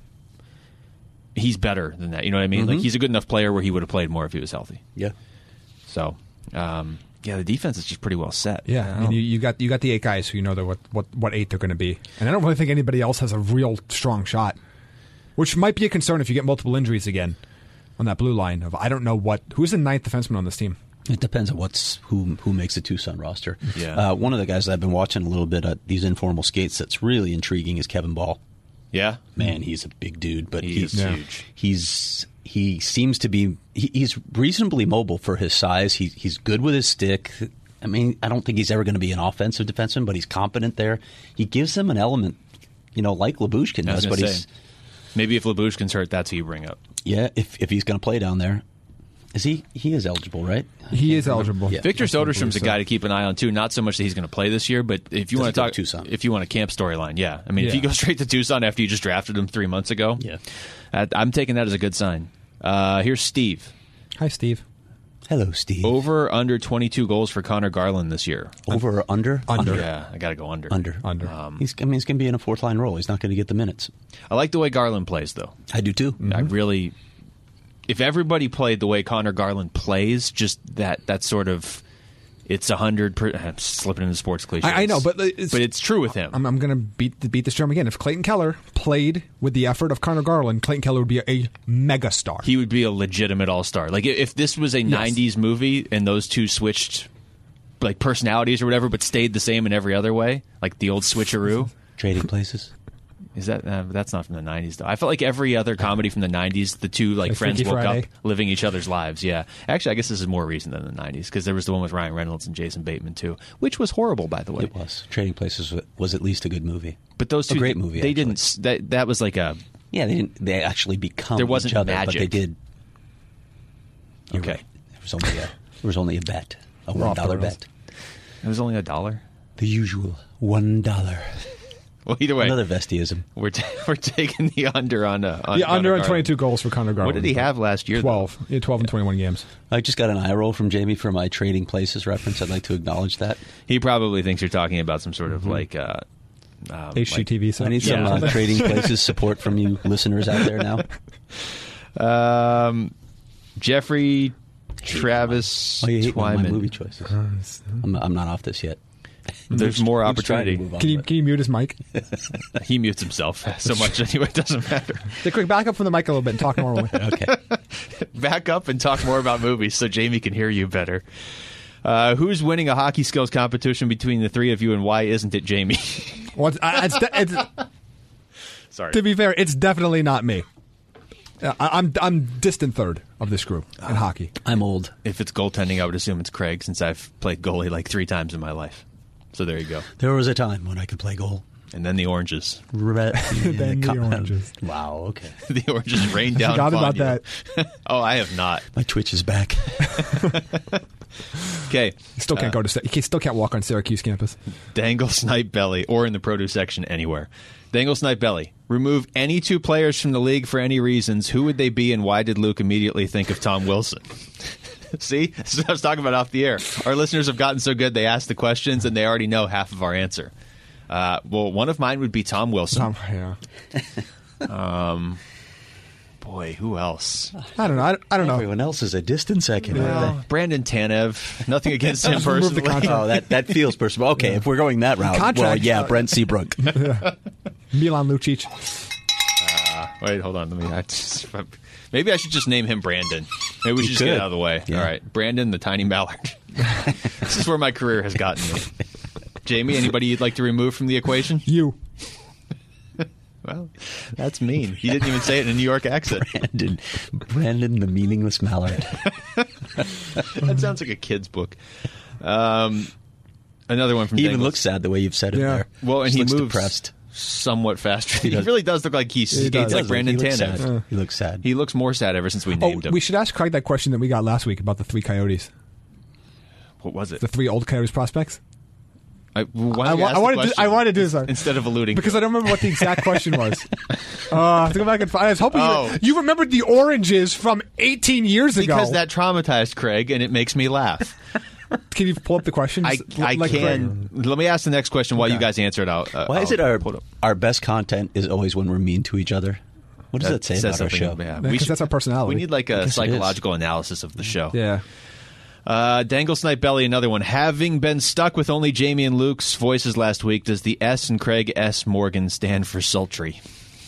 better than that. You know what I mean? Mm-hmm. Like, he's a good enough player where he would have played more if he was healthy. Yeah. So, the defense is just pretty well set. Yeah, I mean, you got the 8 guys who you know what 8 they're going to be, and I don't really think anybody else has a real strong shot, which might be a concern if you get multiple injuries again on that blue line. I don't know who's the 9th defenseman on this team. It depends on who makes the Tucson roster. Yeah. One of the guys that I've been watching a little bit at these informal skates that's really intriguing is Kevin Ball. Yeah, man, he's a big dude, but he's huge. He seems to be he's reasonably mobile for his size. He's good with his stick. I mean, I don't think he's ever going to be an offensive defenseman, but he's competent there. He gives them an element, like Lyubushkin does. But maybe if Lyubushkin's hurt, that's who you bring up. Yeah, if he's going to play down there. Is he is eligible, right? He is eligible. Yeah. Victor Soderstrom's a guy to keep an eye on too. Not so much that he's going to play this year, but if you want to talk Tucson, if you want a camp storyline, yeah. I mean, if you go straight to Tucson after you just drafted him 3 months ago, I'm taking that as a good sign. Here's Steve. Hi, Steve. Hello, Steve. Over under 22 goals for Connor Garland this year. Over or under? Under. Yeah, I got to go under. Under. He's going to be in a fourth line role. He's not going to get the minutes. I like the way Garland plays, though. I do too. I really. If everybody played the way Connor Garland plays, just that sort of, it's 100%. I'm slipping into sports cliches. I know, but it's true with him. I'm going to beat this drum again. If Clayton Keller played with the effort of Connor Garland, Clayton Keller would be a megastar. He would be a legitimate all-star. Like if this was a 90s movie and those two switched like personalities or whatever, but stayed the same in every other way, like the old switcheroo. Trading places. Is that that's not from the 90s though? I felt like every other comedy from the 90s, the two like friends woke up living each other's lives. Yeah, actually, I guess this is more recent than the 90s because there was the one with Ryan Reynolds and Jason Bateman too, which was horrible, by the way. It was. Trading Places was at least a good movie. But those two, a great movie. They didn't. That was like a. Yeah, they didn't. They actually become. There wasn't each other, magic, but they did. You're okay. Right. There was only a bet, a $1 bet. It was only $1. The usual $1. Well, either way, another Vestiism. We're taking the under on under on 22 goals for Connor Garland. What did he have last year? 12. He had 12 in 21 games. I just got an eye roll from Jamie for my Trading Places reference. I'd like to acknowledge that. He probably thinks you're talking about some sort of like HGTV. I need some Trading Places support from you listeners out there now. Jeffrey Travis you hate Twyman. my movie choices. I'm not off this yet. There's more opportunity. Can you mute his mic? He mutes himself so much anyway, it doesn't matter. Quick, back up from the mic a little bit and talk normally. Okay. Back up and talk more about movies so Jamie can hear you better. Who's winning a hockey skills competition between the three of you, and why isn't it Jamie? Well, sorry. To be fair, it's definitely not me. I'm distant third of this group in hockey. I'm old. If it's goaltending, I would assume it's Craig, since I've played goalie like 3 times in my life. So there you go. There was a time when I could play goal. And then the oranges. Then the oranges. Wow, okay. The oranges rained down Forgot upon about you. that. Oh, I have not. My Twitch is back. Okay. You still can't you still can't walk on Syracuse campus. Dangle Snipe Belly, or in the produce section anywhere. Dangle Snipe Belly. Remove any 2 players from the league for any reasons. Who would they be, and why did Luke immediately think of Tom Wilson? See? This is what I was talking about off the air. Our listeners have gotten so good, they ask the questions, and they already know half of our answer. Well, one of mine would be Tom Wilson. Boy, who else? I don't know. I don't know. Everyone else is a distant second. Well, Brandon Tanev. Nothing against him personally. Oh, that feels personal. Okay, if we're going that route, well, yeah, Brent Seabrook. Milan Lucic. Wait, hold on. Maybe I should just name him Brandon. Maybe we should just get it out of the way. Yeah. All right, Brandon the Tiny Mallard. This is where my career has gotten me. Jamie, anybody you'd like to remove from the equation? You. Well, that's mean. You didn't even say it in a New York accent. Brandon the meaningless mallard. That sounds like a kid's book. Another one from He Dangles. even looks sad the way you've said it there. Well, and he moves depressed. Somewhat faster. He really does look like he skates like Brandon Tanev. He looks sad. He looks more sad ever since we named him. We should ask Craig that question that we got last week about the 3 Coyotes. What was it? The 3 old Coyotes prospects? I wanted to do this instead of alluding because to I don't remember what the exact question was. I have to go back and find. I was hoping you remembered the oranges from 18 years ago. Because that traumatized Craig, and it makes me laugh. Can you pull up the question? I can. Let me ask the next question while you guys answer it out. Why is it our best content is always when we're mean to each other? What does that say about our show? Yeah, because that's our personality. We need like a psychological analysis of the show. Yeah. Dangle Snipe Belly, another one. Having been stuck with only Jamie and Luke's voices last week, does the S in Craig S. Morgan stand for sultry?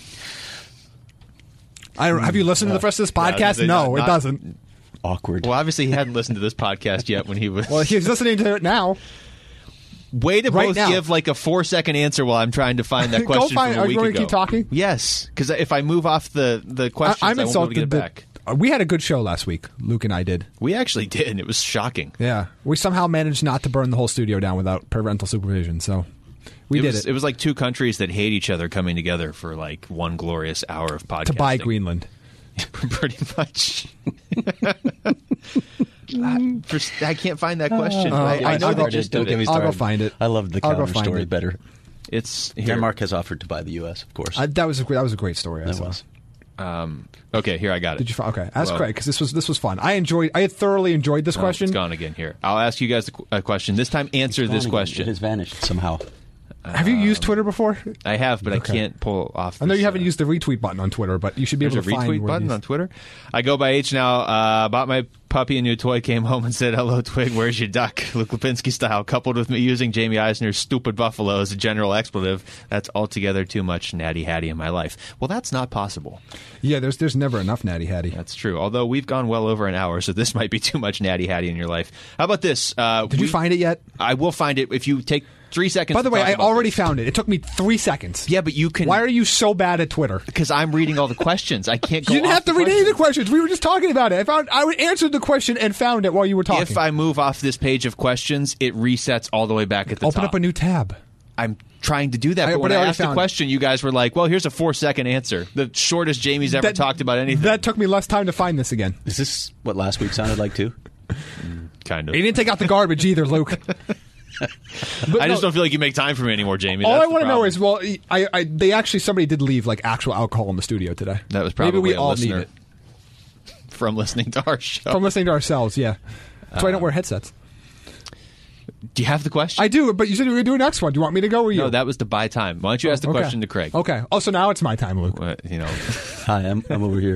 Have you listened to the rest of this podcast? No, it doesn't. Awkward. Well, obviously he hadn't listened to this podcast yet when he was... Well, he's listening to it now. Way to both give like a 4-second answer while I'm trying to find that question from a week ago. Are you going to keep talking? Yes, because if I move off the questions, I won't be able to get it back. We had a good show last week. Luke and I did. We actually did, and it was shocking. Yeah. We somehow managed not to burn the whole studio down without parental supervision, so we did it. It was like two countries that hate each other coming together for like one glorious hour of podcasting. To buy Greenland. Pretty much. I can't find that question. I know the gist of it. I'll go find it. I love the counter story better. It's here. Denmark has offered to buy the U.S., of course. That was a great story. That was. Okay, here I got it. Did you? Okay, ask Craig because this was fun. I thoroughly enjoyed this question. It's gone again. Here, I'll ask you guys a question. This time, answer this question. It has vanished somehow. Have you used Twitter before? I have, but I can't pull off. I know you haven't used the retweet button on Twitter, but you should be able to find. There's a retweet button on Twitter. I go by H now. Bought my puppy a new toy. Came home and said, "Hello, Twig. Where's your duck?" Luke Lipinski style. Coupled with me using Jamie Eisner's "stupid buffalo" as a general expletive. That's altogether too much Natty Hattie in my life. Well, that's not possible. Yeah, there's never enough Natty Hattie. That's true. Although we've gone well over an hour, so this might be too much Natty Hattie in your life. How about this? Did you find it yet? I will find it if you take 3 seconds. By the way, I already found it. It took me 3 seconds. Yeah, but you can. Why are you so bad at Twitter? Because I'm reading all the questions. I can't go. You didn't have to read any of the questions. We were just talking about it. I answered the question and found it while you were talking. If I move off this page of questions, it resets all the way back at the top. Open up a new tab. I'm trying to do that, but when I asked the question, you guys were like, well, here's a 4-second answer. The shortest Jamie's ever talked about anything. That took me less time to find this again. Is this what last week sounded like, too? Kind of. He didn't take out the garbage either, Luke. I just don't feel like you make time for me anymore, Jamie. All I want to know is, well, somebody did leave like actual alcohol in the studio today. That was probably maybe we a all listener need it from listening to our show. From listening to ourselves, yeah. That's why I don't wear headsets. Do you have the question? I do, but you said you were going to do a next one. Do you want me to go or you? No, that was to buy time. Why don't you ask the question to Craig? Okay. Oh, so now it's my time, Luke. Hi, I'm over here.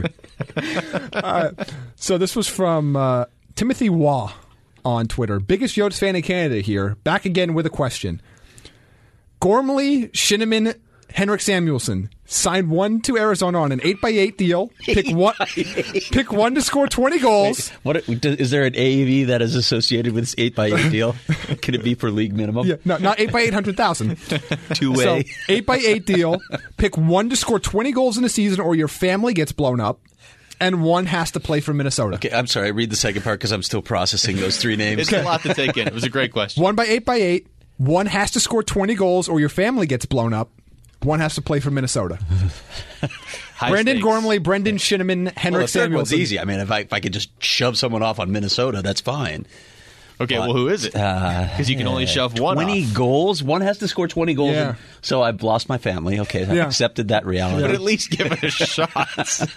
So this was from Timothy Waugh on Twitter. Biggest Yotes fan in Canada here. Back again with a question. Gormley, Shinniman, Henrik Samuelsson signed one to Arizona on an 8x8 deal. Pick one to score 20 goals. Wait, is there an AAV that is associated with this 8x8 deal? Can it be for league minimum? Yeah, no, not 8x8 100,000. Two-way. So 8x8 deal. Pick one to score 20 goals in a season, or your family gets blown up. And one has to play for Minnesota. Okay, I'm sorry. I read the second part because I'm still processing those three names. It's a lot to take in. It was a great question. 1x8x8. One has to score 20 goals, or your family gets blown up. One has to play for Minnesota. Brendan Gormley, Brendan Shinniman, Henrik Samuelsson. The third one's easy. I mean, if I could just shove someone off on Minnesota, that's fine. Okay, well, who is it? Because you can only shove one 20 off. goals? One has to score 20 goals. Yeah. So I've lost my family. Okay, I've accepted that reality. But at least give it a shot.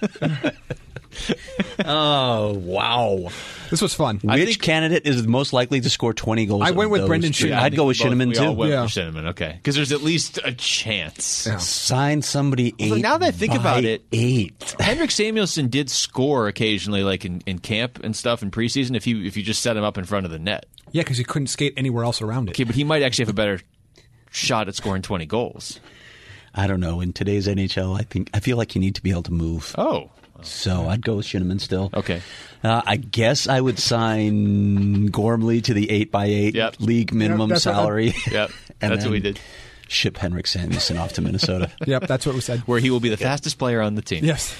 Oh, wow. This was fun. Which candidate is most likely to score 20 goals? I went with Brendan Shinniman. I'd go with Shinniman, too. With Shinniman, okay. Because there's at least a chance. Yeah. Sign somebody 8. So now that I think about it, 8. Henrik Samuelsson did score occasionally, like in camp and stuff in preseason, if you just set him up in front of the net. Yeah, because he couldn't skate anywhere else around it. Okay, but he might actually have a better shot at scoring 20 goals. I don't know. In today's NHL, I feel like you need to be able to move. Oh. So I'd go with Shinniman still. Okay. I guess I would sign Gormley to the 8x8 league minimum salary. Yep, that's what we did. Ship Henrik Samuelsson off to Minnesota. Yep, that's what we said. Where he will be the fastest player on the team. Yes.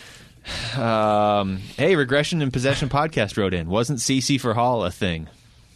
Hey, Regression and Possession podcast wrote in. Wasn't CC for Hall a thing?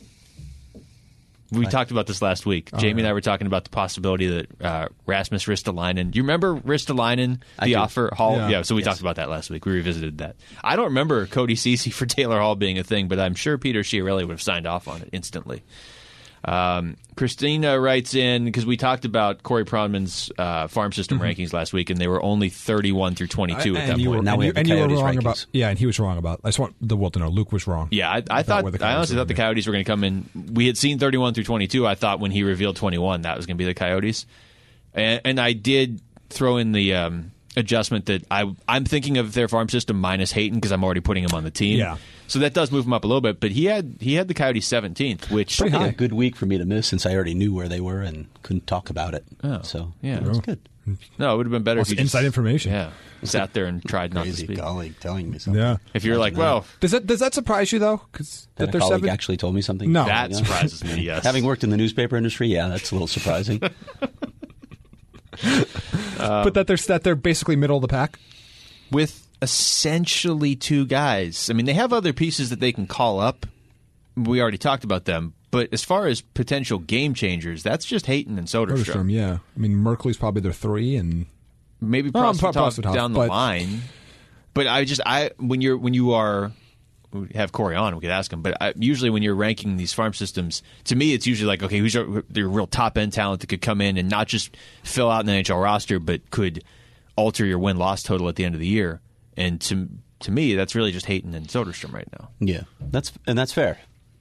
We talked about this last week. Jamie and I were talking about the possibility that Rasmus Ristolainen. Do you remember Ristolainen, the offer? Hall? Yeah, so we talked about that last week. We revisited that. I don't remember Cody Ceci for Taylor Hall being a thing, but I'm sure Peter Chiarelli would have signed off on it instantly. Christina writes in, because we talked about Corey Pronman's farm system rankings last week, and they were only 31 through 22 at that point. Now we have the Coyotes wrong rankings. About, and he was wrong about. I just want the world to know Luke was wrong. Yeah, I honestly thought the Coyotes were going to come in. We had seen 31 through 22. I thought when he revealed 21, that was going to be the Coyotes, and I did throw in the adjustment that I'm thinking of their farm system minus Hayton because I'm already putting him on the team. Yeah. So that does move him up a little bit, but he had the Coyotes 17th, which pretty high. A good week for me to miss since I already knew where they were and couldn't talk about it. Oh, so yeah, it was good. No, it would have been better if you inside information. Yeah, sat there and tried not to speak. Colleague telling me something. Yeah. If you're like, well, does that surprise you though? Because that a colleague actually told me something. No, that surprises me. Yes, having worked in the newspaper industry, yeah, that's a little surprising. But that they're basically middle of the pack. With essentially two guys. I mean, they have other pieces that they can call up. We already talked about them. But as far as potential game changers, that's just Hayton and Soderstrom. Yeah. I mean, Merkley's probably their 3, and maybe Prosvetov down the line. But when you have Corey on, we could ask him. But usually when you're ranking these farm systems, to me, it's usually like, okay, who's your real top end talent that could come in and not just fill out an NHL roster, but could alter your win-loss total at the end of the year. And to me, that's really just Hayton and Soderstrom right now. Yeah, that's fair.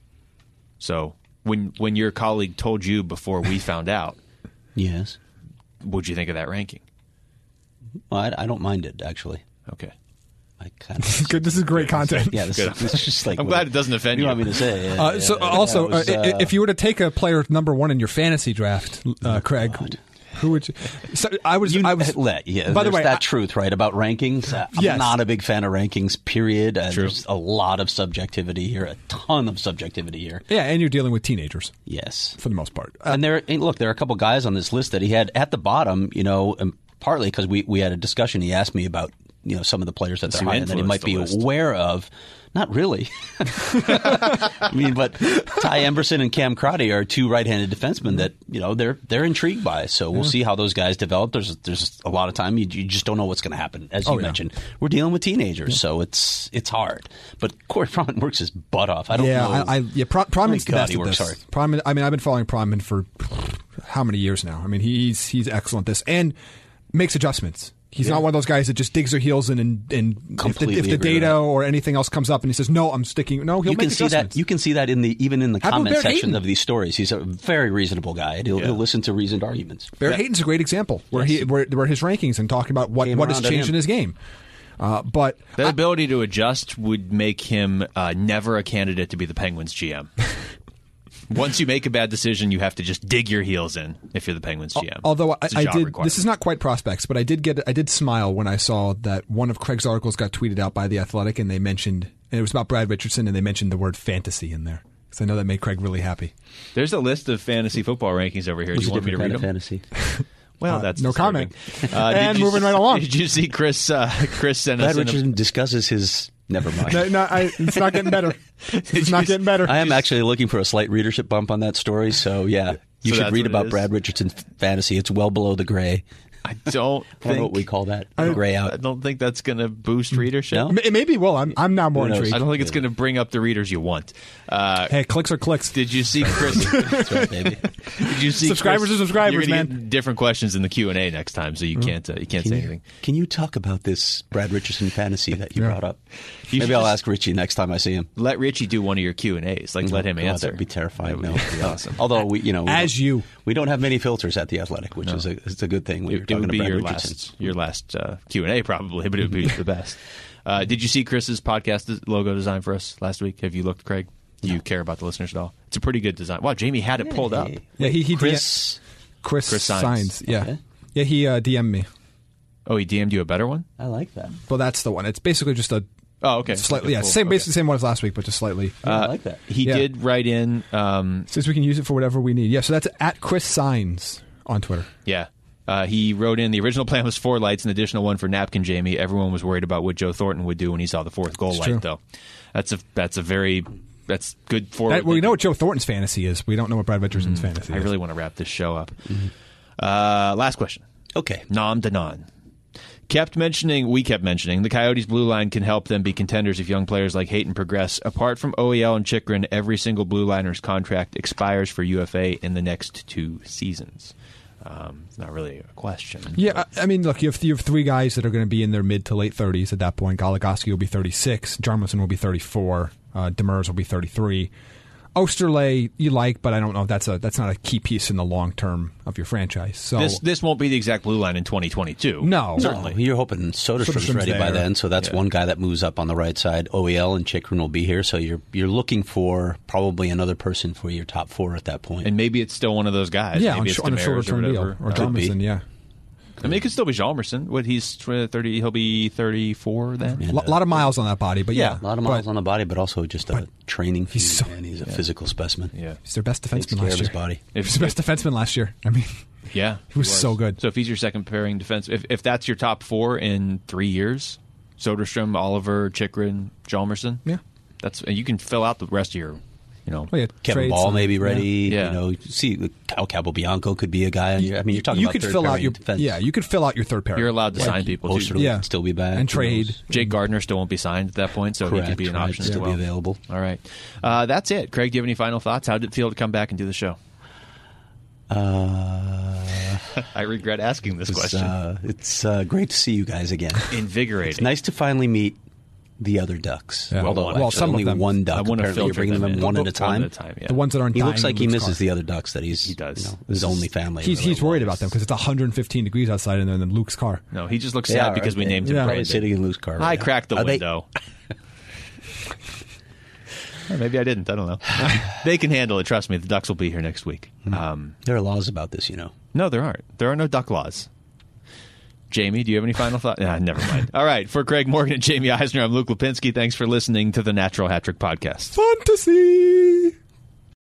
So when your colleague told you before we found out, yes, what'd you think of that ranking? Well, I don't mind it, actually. Okay. I kind of good. This is great content. Yeah, this is just like. I'm glad it doesn't offend you. You want me to say? If you were to take a player number 1 in your fantasy draft, Craig, who would you? So I was. By the way, that truth, right, about rankings. I'm not a big fan of rankings. Period. There's a lot of subjectivity here, a ton of subjectivity here. Yeah, and you're dealing with teenagers. Yes, for the most part. And there are a couple guys on this list that he had at the bottom. Partly because we had a discussion. He asked me about some of the players that they're high and that he might be aware of. Not really. I mean, but Ty Emberson and Cam Crotty are two right-handed defensemen that they're intrigued by. So we'll see how those guys develop. There's a lot of time you just don't know what's going to happen. As you mentioned, we're dealing with teenagers, so it's hard. But Corey Pronman works his butt off. I don't know. Pronman's the best he works at hard. this. I've been following Pronman for how many years now? I mean, he's excellent at this and makes adjustments. He's not one of those guys that just digs their heels in and if the data or anything else comes up and he says, no, I'm sticking. No, he'll make adjustments. You can see that even in the comment section of these stories. He's a very reasonable guy. He'll listen to reasoned arguments. Barrett Hayton's a great example where where his rankings and talking about what has changed in his game. But that ability to adjust would make him never a candidate to be the Penguins GM. Once you make a bad decision, you have to just dig your heels in if you're the Penguins GM. Although I did, this is not quite prospects, but I did smile when I saw that one of Craig's articles got tweeted out by The Athletic, and they mentioned, and it was about Brad Richardson, and they mentioned the word fantasy in there. Because I know that made Craig really happy. There's a list of fantasy football rankings over here. Do you want me to read them? Fantasy. Well, that's no disturbing. Comment. And moving right along. Did you see Chris sent us? Brad Richardson discusses his. Never mind. It's not getting better. It's not getting better. I am actually looking for a slight readership bump on that story. So yeah, you should read about Brad Richardson's fantasy. It's well below the gray. I don't know what we call that. Gray out. I don't think that's going to boost readership. No? It maybe will. I'm now more intrigued. I don't think it's going to bring up the readers you want. Hey, clicks are clicks. Did you see Chris? That's right, baby. Did you see subscribers Chris? are subscribers, You're man. Get different questions in the Q&A next time, so you can't say anything. Can you talk about this Brad Richardson fantasy that you brought up? Maybe I'll ask Richie next time I see him. Let Richie do one of your Q&As. Let him answer. That'd be terrifying. That would be awesome. Although we don't have many filters at The Athletic, which is a good thing. When you're talking to Brad Richardson. Your last Q&A probably, but it would be the best. Did you see Chris's podcast logo design for us last week? Have you looked, Craig? Do you care about the listeners at all? It's a pretty good design. Wow, Jamie had it pulled up. Yeah, he Chris Signs. Yeah. Okay. Yeah, he DM'd me. Oh, he DM'd you a better one? I like that. Well, that's the one. It's basically just a... Oh, okay. Slightly, basically the same one as last week, but just slightly. I like that. He did write in... Since we can use it for whatever we need. Yeah, so that's at Chris Signs on Twitter. Yeah. He wrote in, the original plan was 4 lights, an additional one for Napkin Jamie. Everyone was worried about what Joe Thornton would do when he saw the 4th goal light, though. That's good for... we know what Joe Thornton's fantasy is. We don't know what Brad Richardson's fantasy is. I really want to wrap this show up. Last question. Okay. Nam Danan. We kept mentioning the Coyotes' blue line can help them be contenders if young players like Hayton progress. Apart from OEL and Chychrun, every single blue liner's contract expires for UFA in the next 2 seasons. It's not really a question. Yeah, I mean, look, you have 3 guys that are going to be in their mid to late 30s at that point. Goligoski will be 36. Jarmelson will be 34. Demers will be 33. Osterley you like, but I don't know if that's not a key piece in the long term of your franchise. So this won't be the exact blue line in 2022. No, certainly. You're hoping Soderstrom's ready by then, so that's one guy that moves up on the right side. OEL and Chychrun will be here, so you're looking for probably another person for your top 4 at that point. And maybe it's still one of those guys. Yeah, maybe it's on a shorter term deal, or Jarmelson. Yeah. I mean, it could still be Hjalmarsson. He's 30. He'll be 34 then. A lot of miles on that body, but yeah. A lot of miles on the body, but also just a training feat, man. He's a physical specimen. Yeah. He's their best defenseman last year. His body. He's their best defenseman last year. I mean, yeah, he was so good. So if he's your second pairing defense, if that's your top 4 in 3 years, Soderstrom, Oliver, Chychrun, Hjalmarsson. Yeah. You can fill out the rest of your, Kevin Ball may be ready. Yeah. See, Kyle Capobianco could be a guy. You're talking about could fill out your defense. you could fill out your third pair. You're allowed to sign people. Osterley could still be back and trade. Jake Gardner still won't be signed at that point, so he could be an option as well. Still be available. All right, that's it. Craig, do you have any final thoughts? How did it feel to come back and do the show? I regret asking this question. It's great to see you guys again. Invigorating. It's nice to finally meet the other ducks. Yeah. Although some only of them. one duck. I want to Apparently you're bringing them in one at a time. Yeah. The ones that aren't. He dying looks like in he Luke's misses car. the other ducks that he does. His only family. He's worried about them because it's 115 degrees outside and they're in Luke's car. No, he just looks sad because we named him Probably Brandon. sitting in Luke's car. I cracked the Are they- window. Or maybe I didn't. I don't know. They can handle it. Trust me. The Ducks will be here next week. There are laws about this, No, there aren't. There are no duck laws. Jamie, do you have any final thoughts? Never mind. All right. For Craig Morgan and Jamie Eisner, I'm Luke Lipinski. Thanks for listening to the Natural Hat Trick Podcast. Fantasy!